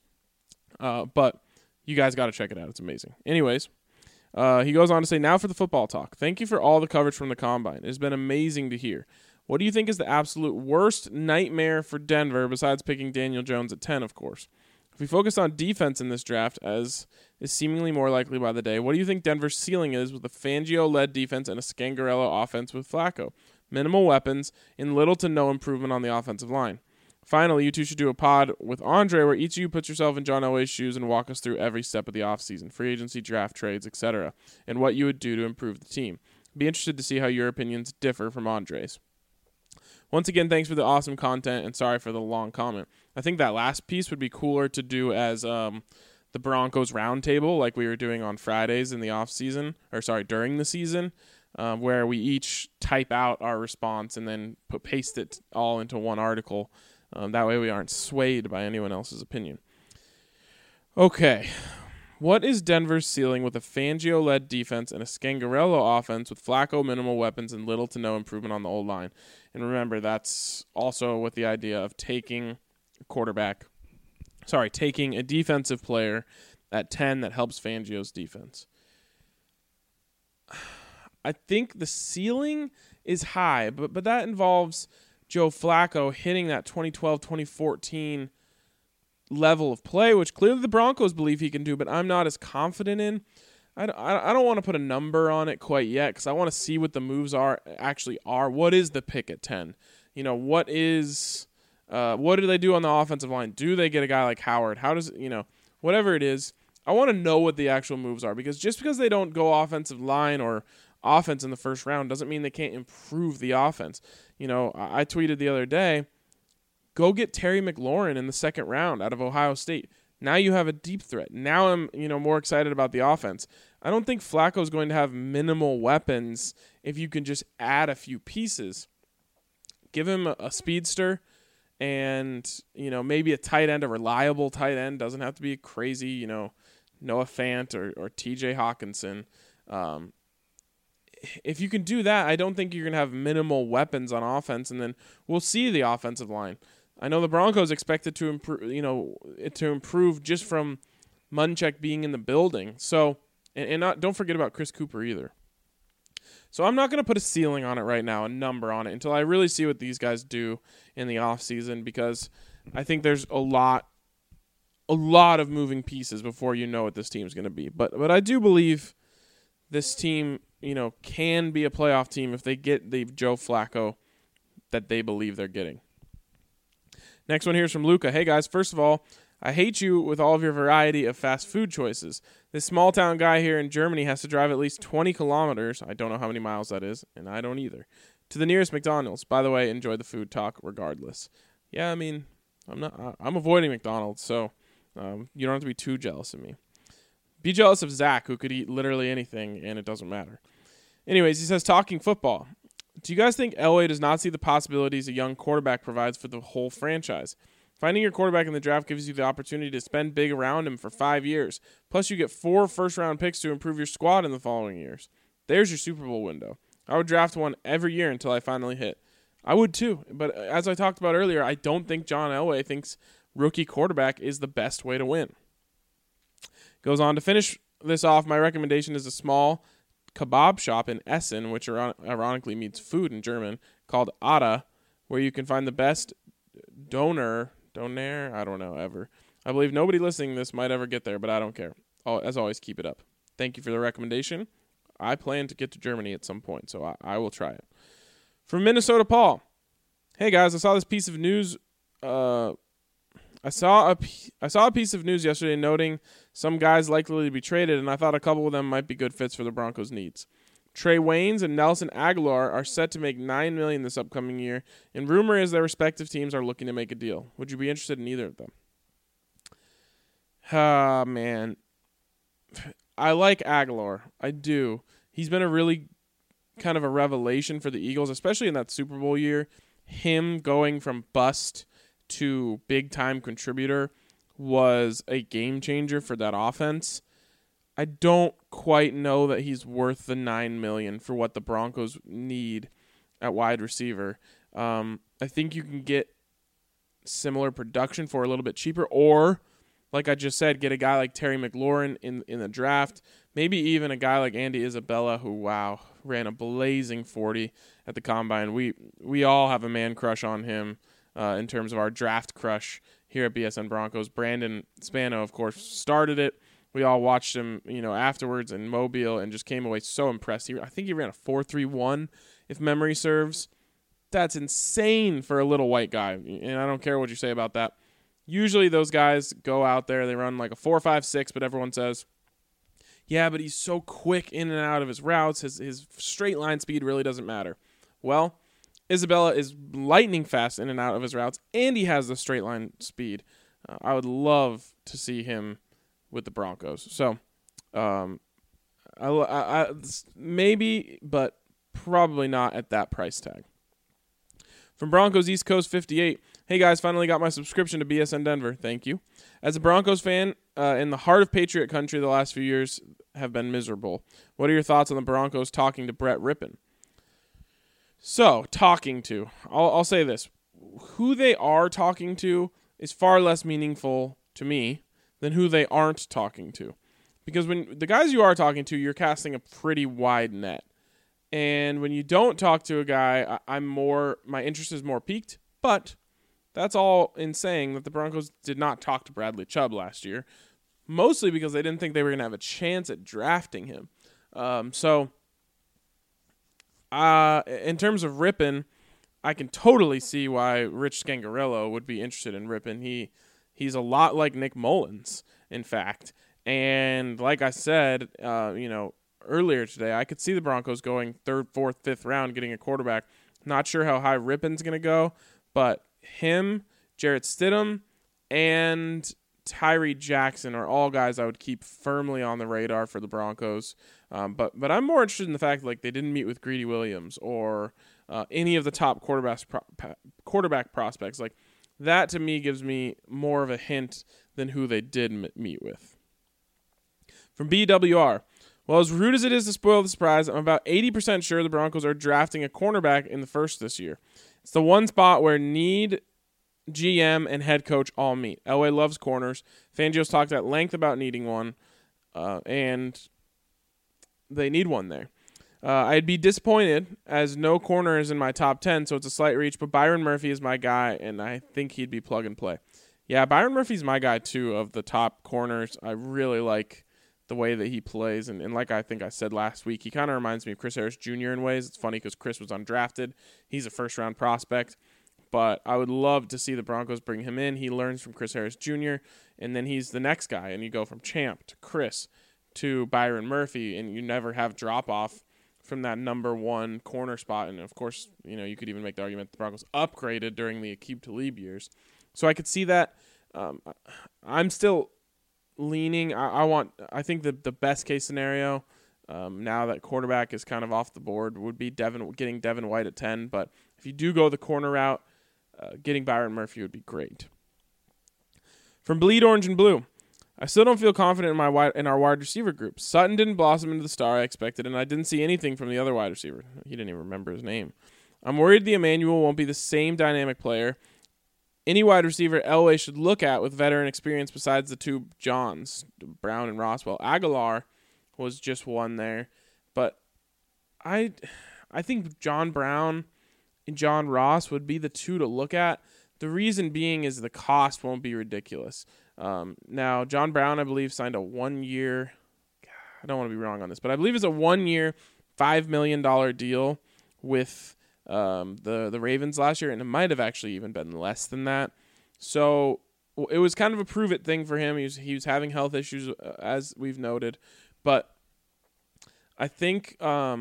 But you guys got to check it out. It's amazing. Anyways, he goes on to say, now for the football talk. Thank you for all the coverage from the Combine. It has been amazing to hear. What do you think is the absolute worst nightmare for Denver, besides picking Daniel Jones at 10, of course? If we focus on defense in this draft, as is seemingly more likely by the day, what do you think Denver's ceiling is with a Fangio-led defense and a Scangarello offense with Flacco? Minimal weapons and little to no improvement on the offensive line. Finally, you two should do a pod with Andre where each of you puts yourself in John Elway's shoes and walk us through every step of the offseason, free agency, draft, trades, etc., and what you would do to improve the team. Be interested to see how your opinions differ from Andre's. Once again, thanks for the awesome content, and sorry for the long comment. I think that last piece would be cooler to do as the Broncos roundtable, like we were doing on Fridays in the during the season, where we each type out our response and then paste it all into one article. That way we aren't swayed by anyone else's opinion. Okay, What is Denver's ceiling with a Fangio-led defense and a Scangarello offense with Flacco minimal weapons and little to no improvement on the old line? And remember, that's also with the idea of taking a defensive player at 10 that helps Fangio's defense. I think the ceiling is high, but that involves Joe Flacco hitting that 2012-2014 level of play, which clearly the Broncos believe he can do, but I'm not as confident in. I don't want to put a number on it quite yet because I want to see what the moves actually are. What is the pick at 10? What do they do on the offensive line? Do they get a guy like Howard? How does, whatever it is, I want to know what the actual moves are, because just because they don't go offensive line or offense in the first round doesn't mean they can't improve the offense. I tweeted the other day, go get Terry McLaurin in the second round out of Ohio State. Now you have a deep threat. Now I'm, more excited about the offense. I don't think Flacco's going to have minimal weapons if you can just add a few pieces. Give him a speedster and, maybe a tight end, a reliable tight end. Doesn't have to be crazy, Noah Fant or TJ Hawkinson. If you can do that, I don't think you're going to have minimal weapons on offense, and then we'll see the offensive line. I know the Broncos expected to improve just from Munchak being in the building. So, don't forget about Chris Cooper either. So I'm not going to put a ceiling on it right now, a number on it, until I really see what these guys do in the offseason, because I think there's a lot of moving pieces before you know what this team's going to be. But I do believe this team, can be a playoff team if they get the Joe Flacco that they believe they're getting. Next one here is from Luca. Hey, guys, first of all, I hate you with all of your variety of fast food choices. This small-town guy here in Germany has to drive at least 20 kilometers, I don't know how many miles that is, and I don't either, to the nearest McDonald's. By the way, enjoy the food talk regardless. Yeah, I'm avoiding McDonald's, so you don't have to be too jealous of me. Be jealous of Zach, who could eat literally anything, and it doesn't matter. Anyways, he says, talking football. Do you guys think Elway does not see the possibilities a young quarterback provides for the whole franchise? Finding your quarterback in the draft gives you the opportunity to spend big around him for 5 years. Plus, you get 4 first-round picks to improve your squad in the following years. There's your Super Bowl window. I would draft one every year until I finally hit. I would too, but as I talked about earlier, I don't think John Elway thinks rookie quarterback is the best way to win. Goes on to finish this off, my recommendation is a small kebab shop in Essen, which ironically means food in German, called Ada, where you can find the best doner, I don't know, ever. I believe nobody listening to this might ever get there, but I don't care. As always, keep it up. Thank you for the recommendation. I plan to get to Germany at some point, so I will try it. From Minnesota, Paul. Hey, guys, I saw this piece of news. I saw a piece of news yesterday noting some guys likely to be traded, and I thought a couple of them might be good fits for the Broncos' needs. Trey Waynes and Nelson Aguilar are set to make $9 million this upcoming year, and rumor is their respective teams are looking to make a deal. Would you be interested in either of them? Man. I like Aguilar. I do. He's been a really kind of a revelation for the Eagles, especially in that Super Bowl year. Him going from bust to big-time contributor was a game changer for that offense. I don't quite know that he's worth the $9 million for what the Broncos need at wide receiver. I think you can get similar production for a little bit cheaper, or, like I just said, get a guy like Terry McLaurin in the draft, maybe even a guy like Andy Isabella, who, ran a blazing 40 at the Combine. We all have a man crush on him in terms of our draft crush here at BSN Broncos. Brandon Spano, of course, started it. We all watched him, afterwards in Mobile and just came away so impressed. I think he ran a 4.31, if memory serves. That's insane for a little white guy, and I don't care what you say about that. Usually those guys go out there, they run like a 4.56, but everyone says, yeah, but he's so quick in and out of his routes. His straight line speed really doesn't matter. Well, Isabella is lightning fast in and out of his routes, and he has the straight line speed. I would love to see him with the Broncos. So, maybe, but probably not at that price tag. From Broncos East Coast 58, hey guys, finally got my subscription to BSN Denver. Thank you. As a Broncos fan, in the heart of Patriot country, the last few years have been miserable. What are your thoughts on the Broncos talking to Brett Rippon? So, talking to. I'll say this. Who they are talking to is far less meaningful to me than who they aren't talking to. Because when the guys you are talking to, you're casting a pretty wide net. And when you don't talk to a guy, my interest is more piqued. But that's all in saying that the Broncos did not talk to Bradley Chubb last year, mostly because they didn't think they were going to have a chance at drafting him. In terms of Rippon, I can totally see why Rich Scangarello would be interested in Rippon. He's a lot like Nick Mullins, in fact. And like I said, earlier today, I could see the Broncos going 3rd, 4th, 5th round, getting a quarterback. Not sure how high Rippon's going to go, but him, Jarrett Stidham, and Tyree Jackson are all guys I would keep firmly on the radar for the Broncos. But I'm more interested in the fact that they didn't meet with Greedy Williams or any of the top quarterback prospects. Like that to me gives me more of a hint than who they did meet with. From BWR, well, as rude as it is to spoil the surprise, I'm about 80% sure the Broncos are drafting a cornerback in the first this year. It's the one spot where need, GM, and head coach all meet. Elway loves corners. Fangio's talked at length about needing one, and they need one there. I'd be disappointed as no corner is in my top 10, so it's a slight reach, but Byron Murphy is my guy, and I think he'd be plug and play. Yeah, Byron Murphy's my guy, too, of the top corners. I really like the way that he plays, and like I think I said last week, he kind of reminds me of Chris Harris Jr. in ways. It's funny because Chris was undrafted. He's a first-round prospect, but I would love to see the Broncos bring him in. He learns from Chris Harris Jr., and then he's the next guy, and you go from Champ to Chris to Byron Murphy, and you never have drop-off from that number one corner spot. And, of course, you could even make the argument the Broncos upgraded during the Aqib Talib years. So I could see that. I'm still leaning. I think the best case scenario now that quarterback is kind of off the board would be getting Devin White at 10. But if you do go the corner route, getting Byron Murphy would be great. From Bleed Orange and Blue, I still don't feel confident in our wide receiver group. Sutton didn't blossom into the star I expected, and I didn't see anything from the other wide receiver. He didn't even remember his name. I'm worried the Emmanuel won't be the same dynamic player. Any wide receiver Elway should look at with veteran experience besides the two Johns, Brown and Roswell. Aguilar was just one there, but I think John Brown and John Ross would be the two to look at. The reason being is the cost won't be ridiculous. Now, John Brown, I believe, signed a 1-year, I don't want to be wrong on this, but I believe it's a 1-year, $5 million deal with the Ravens last year, and it might have actually even been less than that. So it was kind of a prove-it thing for him. He was having health issues, as we've noted. But I think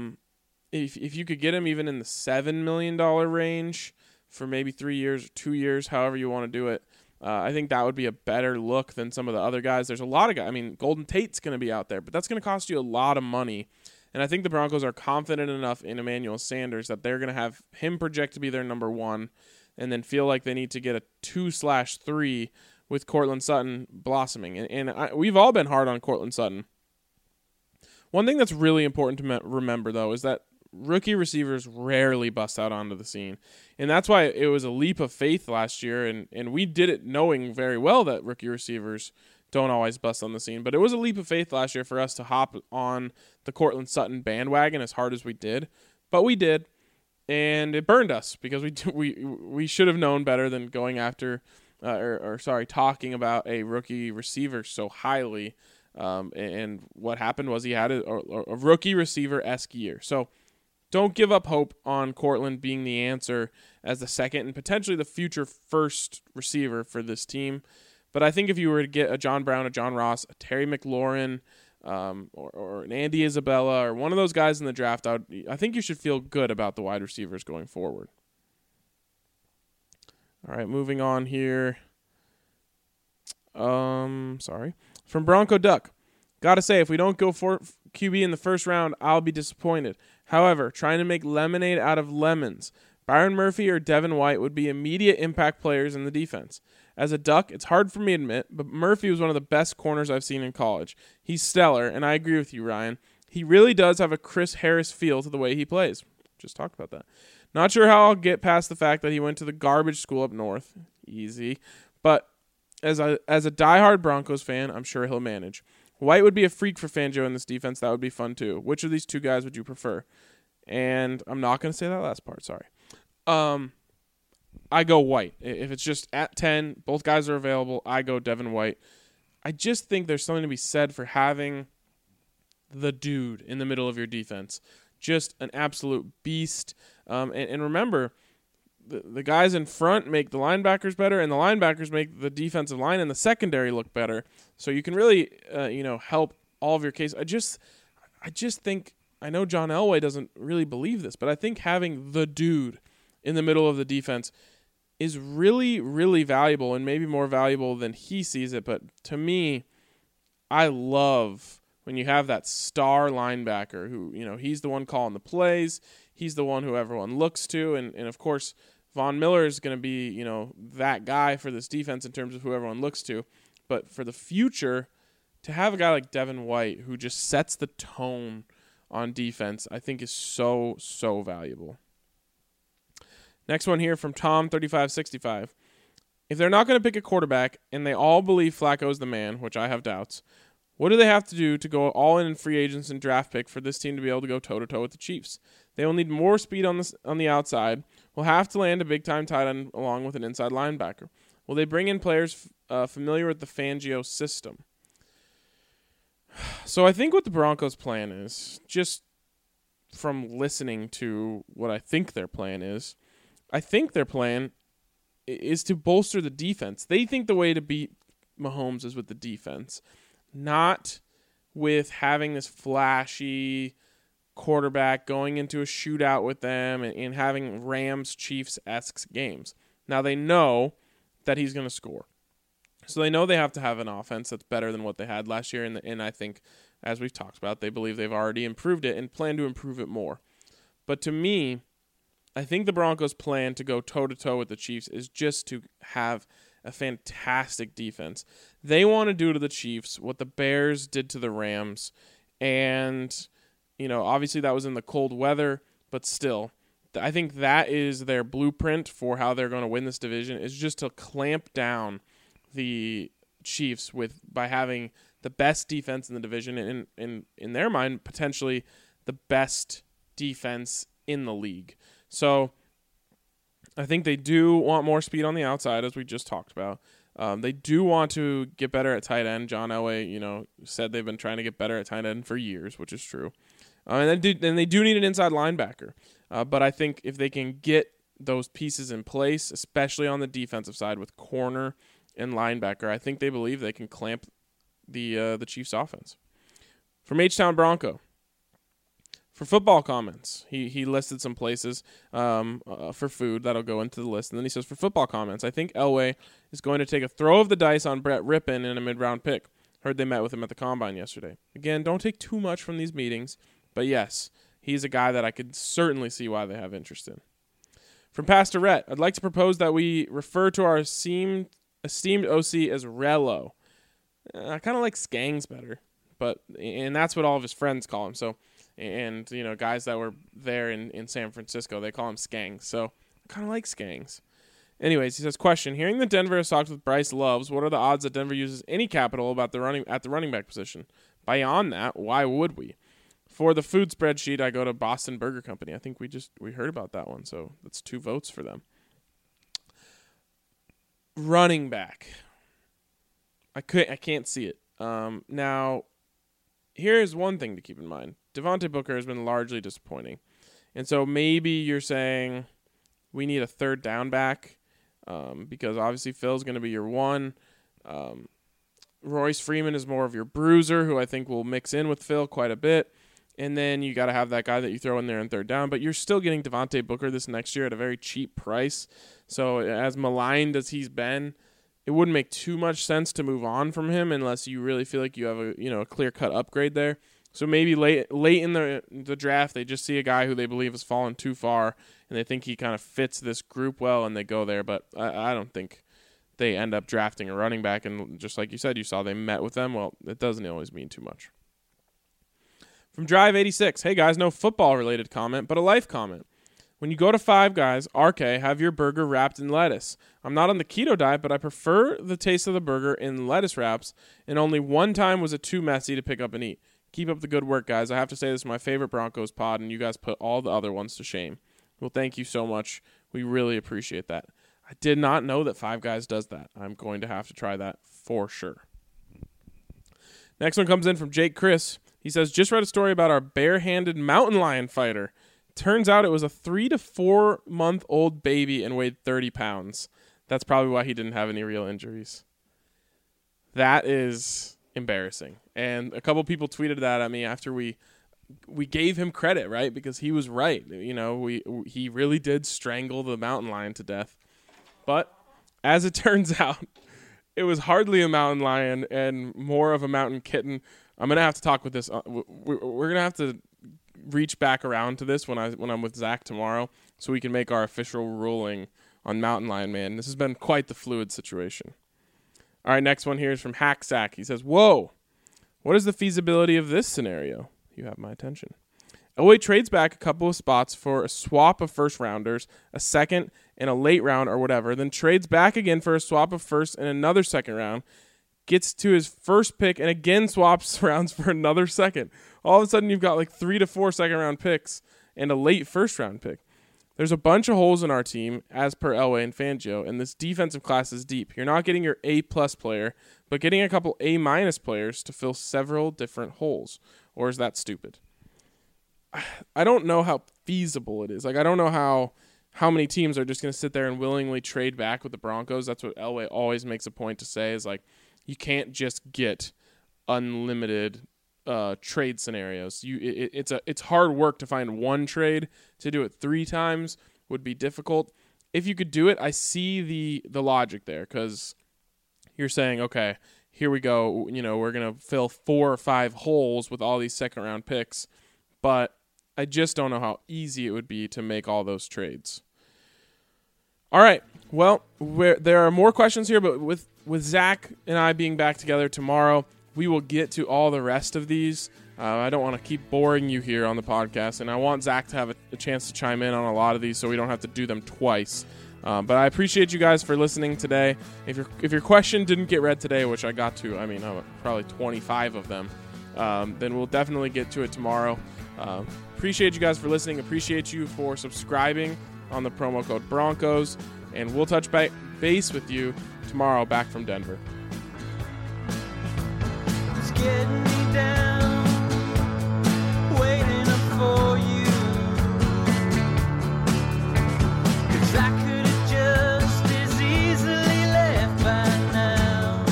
if you could get him even in the $7 million range for maybe 3 years or 2 years, however you want to do it, I think that would be a better look than some of the other guys. There's a lot of guys. I mean, Golden Tate's going to be out there, but that's going to cost you a lot of money. And I think the Broncos are confident enough in Emmanuel Sanders that they're going to have him project to be their number one and then feel like they need to get a 2/3 with Courtland Sutton blossoming. And we've all been hard on Courtland Sutton. One thing that's really important to remember, though, is that rookie receivers rarely bust out onto the scene. And that's why it was a leap of faith last year, and we did it knowing very well that rookie receivers don't always bust on the scene. But it was a leap of faith last year for us to hop on the Courtland Sutton bandwagon as hard as we did. But we did, and it burned us because we should have known better than going after talking about a rookie receiver so highly. And what happened was he had a rookie receiver-esque year. So don't give up hope on Courtland being the answer as the second and potentially the future first receiver for this team. But I think if you were to get a John Brown, a John Ross, a Terry McLaurin, or an Andy Isabella, or one of those guys in the draft, I think you should feel good about the wide receivers going forward. All right, moving on here. From Bronco Duck. Gotta say, if we don't go for QB in the first round, I'll be disappointed. However, trying to make lemonade out of lemons, Byron Murphy or Devin White would be immediate impact players in the defense. As a Duck, it's hard for me to admit, but Murphy was one of the best corners I've seen in college. He's stellar, and I agree with you, Ryan. He really does have a Chris Harris feel to the way he plays. Just talked about that. Not sure how I'll get past the fact that he went to the garbage school up north. Easy. But as a diehard Broncos fan, I'm sure he'll manage. White would be a freak for Fangio in this defense. That would be fun, too. Which of these two guys would you prefer? And I'm not going to say that last part. Sorry. I go White. If it's just at 10, both guys are available, I go Devin White. I just think there's something to be said for having the dude in the middle of your defense. Just an absolute beast. And remember, the guys in front make the linebackers better, and the linebackers make the defensive line and the secondary look better. So you can really, help all of your case. I just think, I know John Elway doesn't really believe this, but I think having the dude in the middle of the defense is really, really valuable, and maybe more valuable than he sees it. But to me, I love when you have that star linebacker who, he's the one calling the plays. He's the one who everyone looks to. And of course, Von Miller is going to be, that guy for this defense in terms of who everyone looks to. But for the future, to have a guy like Devin White who just sets the tone on defense, I think is so, so valuable. Next one here from Tom3565. If they're not going to pick a quarterback and they all believe Flacco's the man, which I have doubts, what do they have to do to go all in free agents and draft pick for this team to be able to go toe-to-toe with the Chiefs? They will need more speed on the outside. Will have to land a big-time tight end along with an inside linebacker. Will they bring in players familiar with the Fangio system? So I think what the Broncos' plan is, just from listening to what I think their plan is, I think their plan is to bolster the defense. They think the way to beat Mahomes is with the defense, not with having this flashy quarterback going into a shootout with them and having Rams-Chiefs-esque games. Now they know that he's going to score. So they know they have to have an offense that's better than what they had last year, and I think, as we've talked about, they believe they've already improved it and plan to improve it more. But to me, I think the Broncos' plan to go toe-to-toe with the Chiefs is just to have a fantastic defense. They want to do to the Chiefs what the Bears did to the Rams, and obviously that was in the cold weather, but still, I think that is their blueprint for how they're going to win this division, is just to clamp down the Chiefs by having the best defense in the division, and in their mind, potentially the best defense in the league. So I think they do want more speed on the outside, as we just talked about. They do want to get better at tight end. John Elway, said they've been trying to get better at tight end for years, which is true. And they do need an inside linebacker. But I think if they can get those pieces in place, especially on the defensive side with corner and linebacker, I think they believe they can clamp the Chiefs' offense. From H-Town Bronco. For football comments, he listed some places for food that'll go into the list. And then he says, for football comments, I think Elway is going to take a throw of the dice on Brett Rippon in a mid-round pick. Heard they met with him at the Combine yesterday. Again, don't take too much from these meetings, but yes, he's a guy that I could certainly see why they have interest in. From Pastor Rhett, I'd like to propose that we refer to our esteemed OC as Rello. I kind of like Skangs better, and that's what all of his friends call him. So, and guys that were there in San Francisco, they call him Skangs. So I kind of like Skangs. Anyways, he says, question: hearing that Denver has talked with Bryce Loves, what are the odds that Denver uses any capital at the running back position? Beyond that, why would we? For the food spreadsheet, I go to Boston Burger Company. I think we heard about that one, so that's 2 votes for them. Running back. I can't see it. Now, here's one thing to keep in mind. Devontae Booker has been largely disappointing. And so maybe you're saying we need a third down back because obviously Phil's going to be your one. Royce Freeman is more of your bruiser, who I think will mix in with Phil quite a bit. And then you got to have that guy that you throw in there in third down. But you're still getting Devontae Booker this next year at a very cheap price. So as maligned as he's been, it wouldn't make too much sense to move on from him unless you really feel like you have a clear-cut upgrade there. So maybe late in the draft, they just see a guy who they believe has fallen too far, and they think he kind of fits this group well, and they go there. But I don't think they end up drafting a running back. And just like you said, you saw they met with them. Well, it doesn't always mean too much. From Drive 86, hey guys, no football-related comment, but a life comment. When you go to Five Guys, RK, have your burger wrapped in lettuce. I'm not on the keto diet, but I prefer the taste of the burger in lettuce wraps, and only one time was it too messy to pick up and eat. Keep up the good work, guys. I have to say this is my favorite Broncos pod, and you guys put all the other ones to shame. Well, thank you so much. We really appreciate that. I did not know that Five Guys does that. I'm going to have to try that for sure. Next one comes in from Jake Chris. He says, just read a story about our bare-handed mountain lion fighter. Turns out it was a 3 to 4 month old baby and weighed 30 pounds. That's probably why he didn't have any real injuries. That is embarrassing. And a couple people tweeted that at me after we gave him credit, right? Because he was right. You know, he really did strangle the mountain lion to death. But as it turns out, it was hardly a mountain lion and more of a mountain kitten. I'm going to have to talk with this. We're going to have to reach back around to this when I'm with Zach tomorrow so we can make our official ruling on Mountain Lion Man. This has been quite the fluid situation. All right, next one here is from Hacksack. He says, whoa, what is the feasibility of this scenario? You have my attention. Elway trades back a couple of spots for a swap of first rounders, a second and a late round or whatever, then trades back again for a swap of first and another second round, gets to his first pick and again swaps rounds for another second. All of a sudden you've got like 3 to 4 second round picks and a late first round pick. There's a bunch of holes in our team, as per Elway and Fangio, and this defensive class is deep. You're not getting your A-plus player, but getting a couple A-minus players to fill several different holes. Or is that stupid? I don't know how feasible it is. Like, I don't know how many teams are just going to sit there and willingly trade back with the Broncos. That's what Elway always makes a point to say, is like, you can't just get unlimited trade scenarios. It's hard work to find one trade. To do it 3 times would be difficult. If you could do it, I see the logic there, because you're saying, okay, here we go. You know, we're gonna fill 4 or 5 holes with all these second round picks, but I just don't know how easy it would be to make all those trades. All right. Well, there are more questions here, but with Zach and I being back together tomorrow, we will get to all the rest of these. I don't want to keep boring you here on the podcast, and I want Zach to have a chance to chime in on a lot of these so we don't have to do them twice. But I appreciate you guys for listening today. If your question didn't get read today, which I got to, probably 25 of them, then we'll definitely get to it tomorrow. Appreciate you guys for listening. Appreciate you for subscribing on the promo code Broncos, and we'll touch base with you tomorrow back from Denver. It's getting me down, waiting up for you. 'Cause I could have just as easily left by now.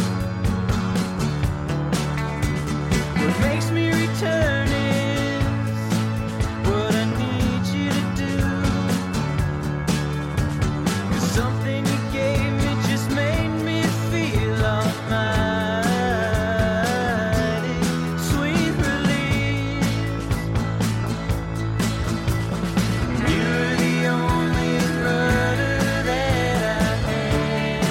What makes me return is what I need you to do. 'Cause something you gave me just made me feel almighty. Sweet relief. You're the only brother that I had.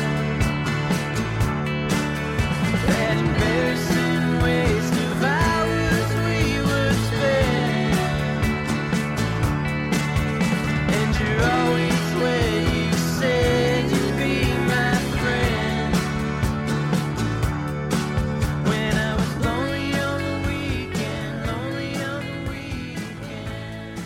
That embarrassing waste of hours we would spend. And you're always where you said you'd be my friend. When I was lonely on the weekend, lonely on the weekend.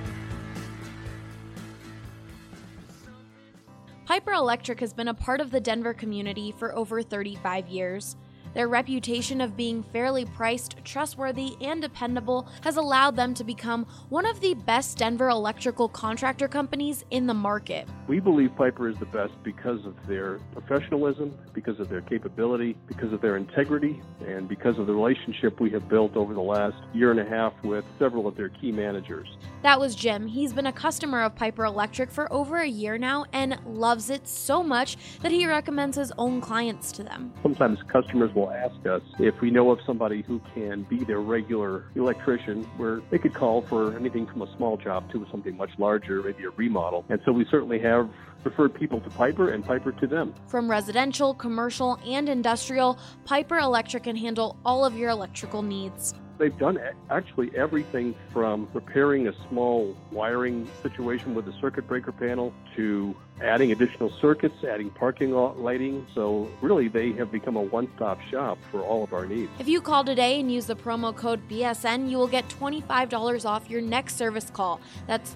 Piper Electric has been a part of the Denver community for over 35 years. Their reputation of being fairly priced, trustworthy, and dependable has allowed them to become one of the best Denver electrical contractor companies in the market. We believe Piper is the best because of their professionalism, because of their capability, because of their integrity, and because of the relationship we have built over the last year and a half with several of their key managers. That was Jim. He's been a customer of Piper Electric for over a year now and loves it so much that he recommends his own clients to them. Sometimes customers will ask us if we know of somebody who can be their regular electrician, where they could call for anything from a small job to something much larger, maybe a remodel. And so we certainly have referred people to Piper and Piper to them. From residential, commercial, and industrial, Piper Electric can handle all of your electrical needs. They've done actually everything from repairing a small wiring situation with a circuit breaker panel to adding additional circuits, adding parking lot lighting. So really, they have become a one-stop shop for all of our needs. If you call today and use the promo code BSN, you will get $25 off your next service call. That's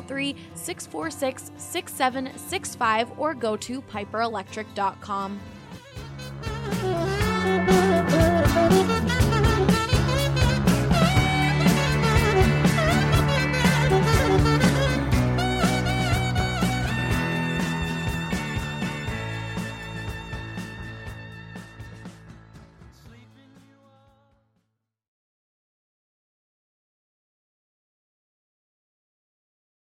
303-646-6765 or go to piperelectric.com.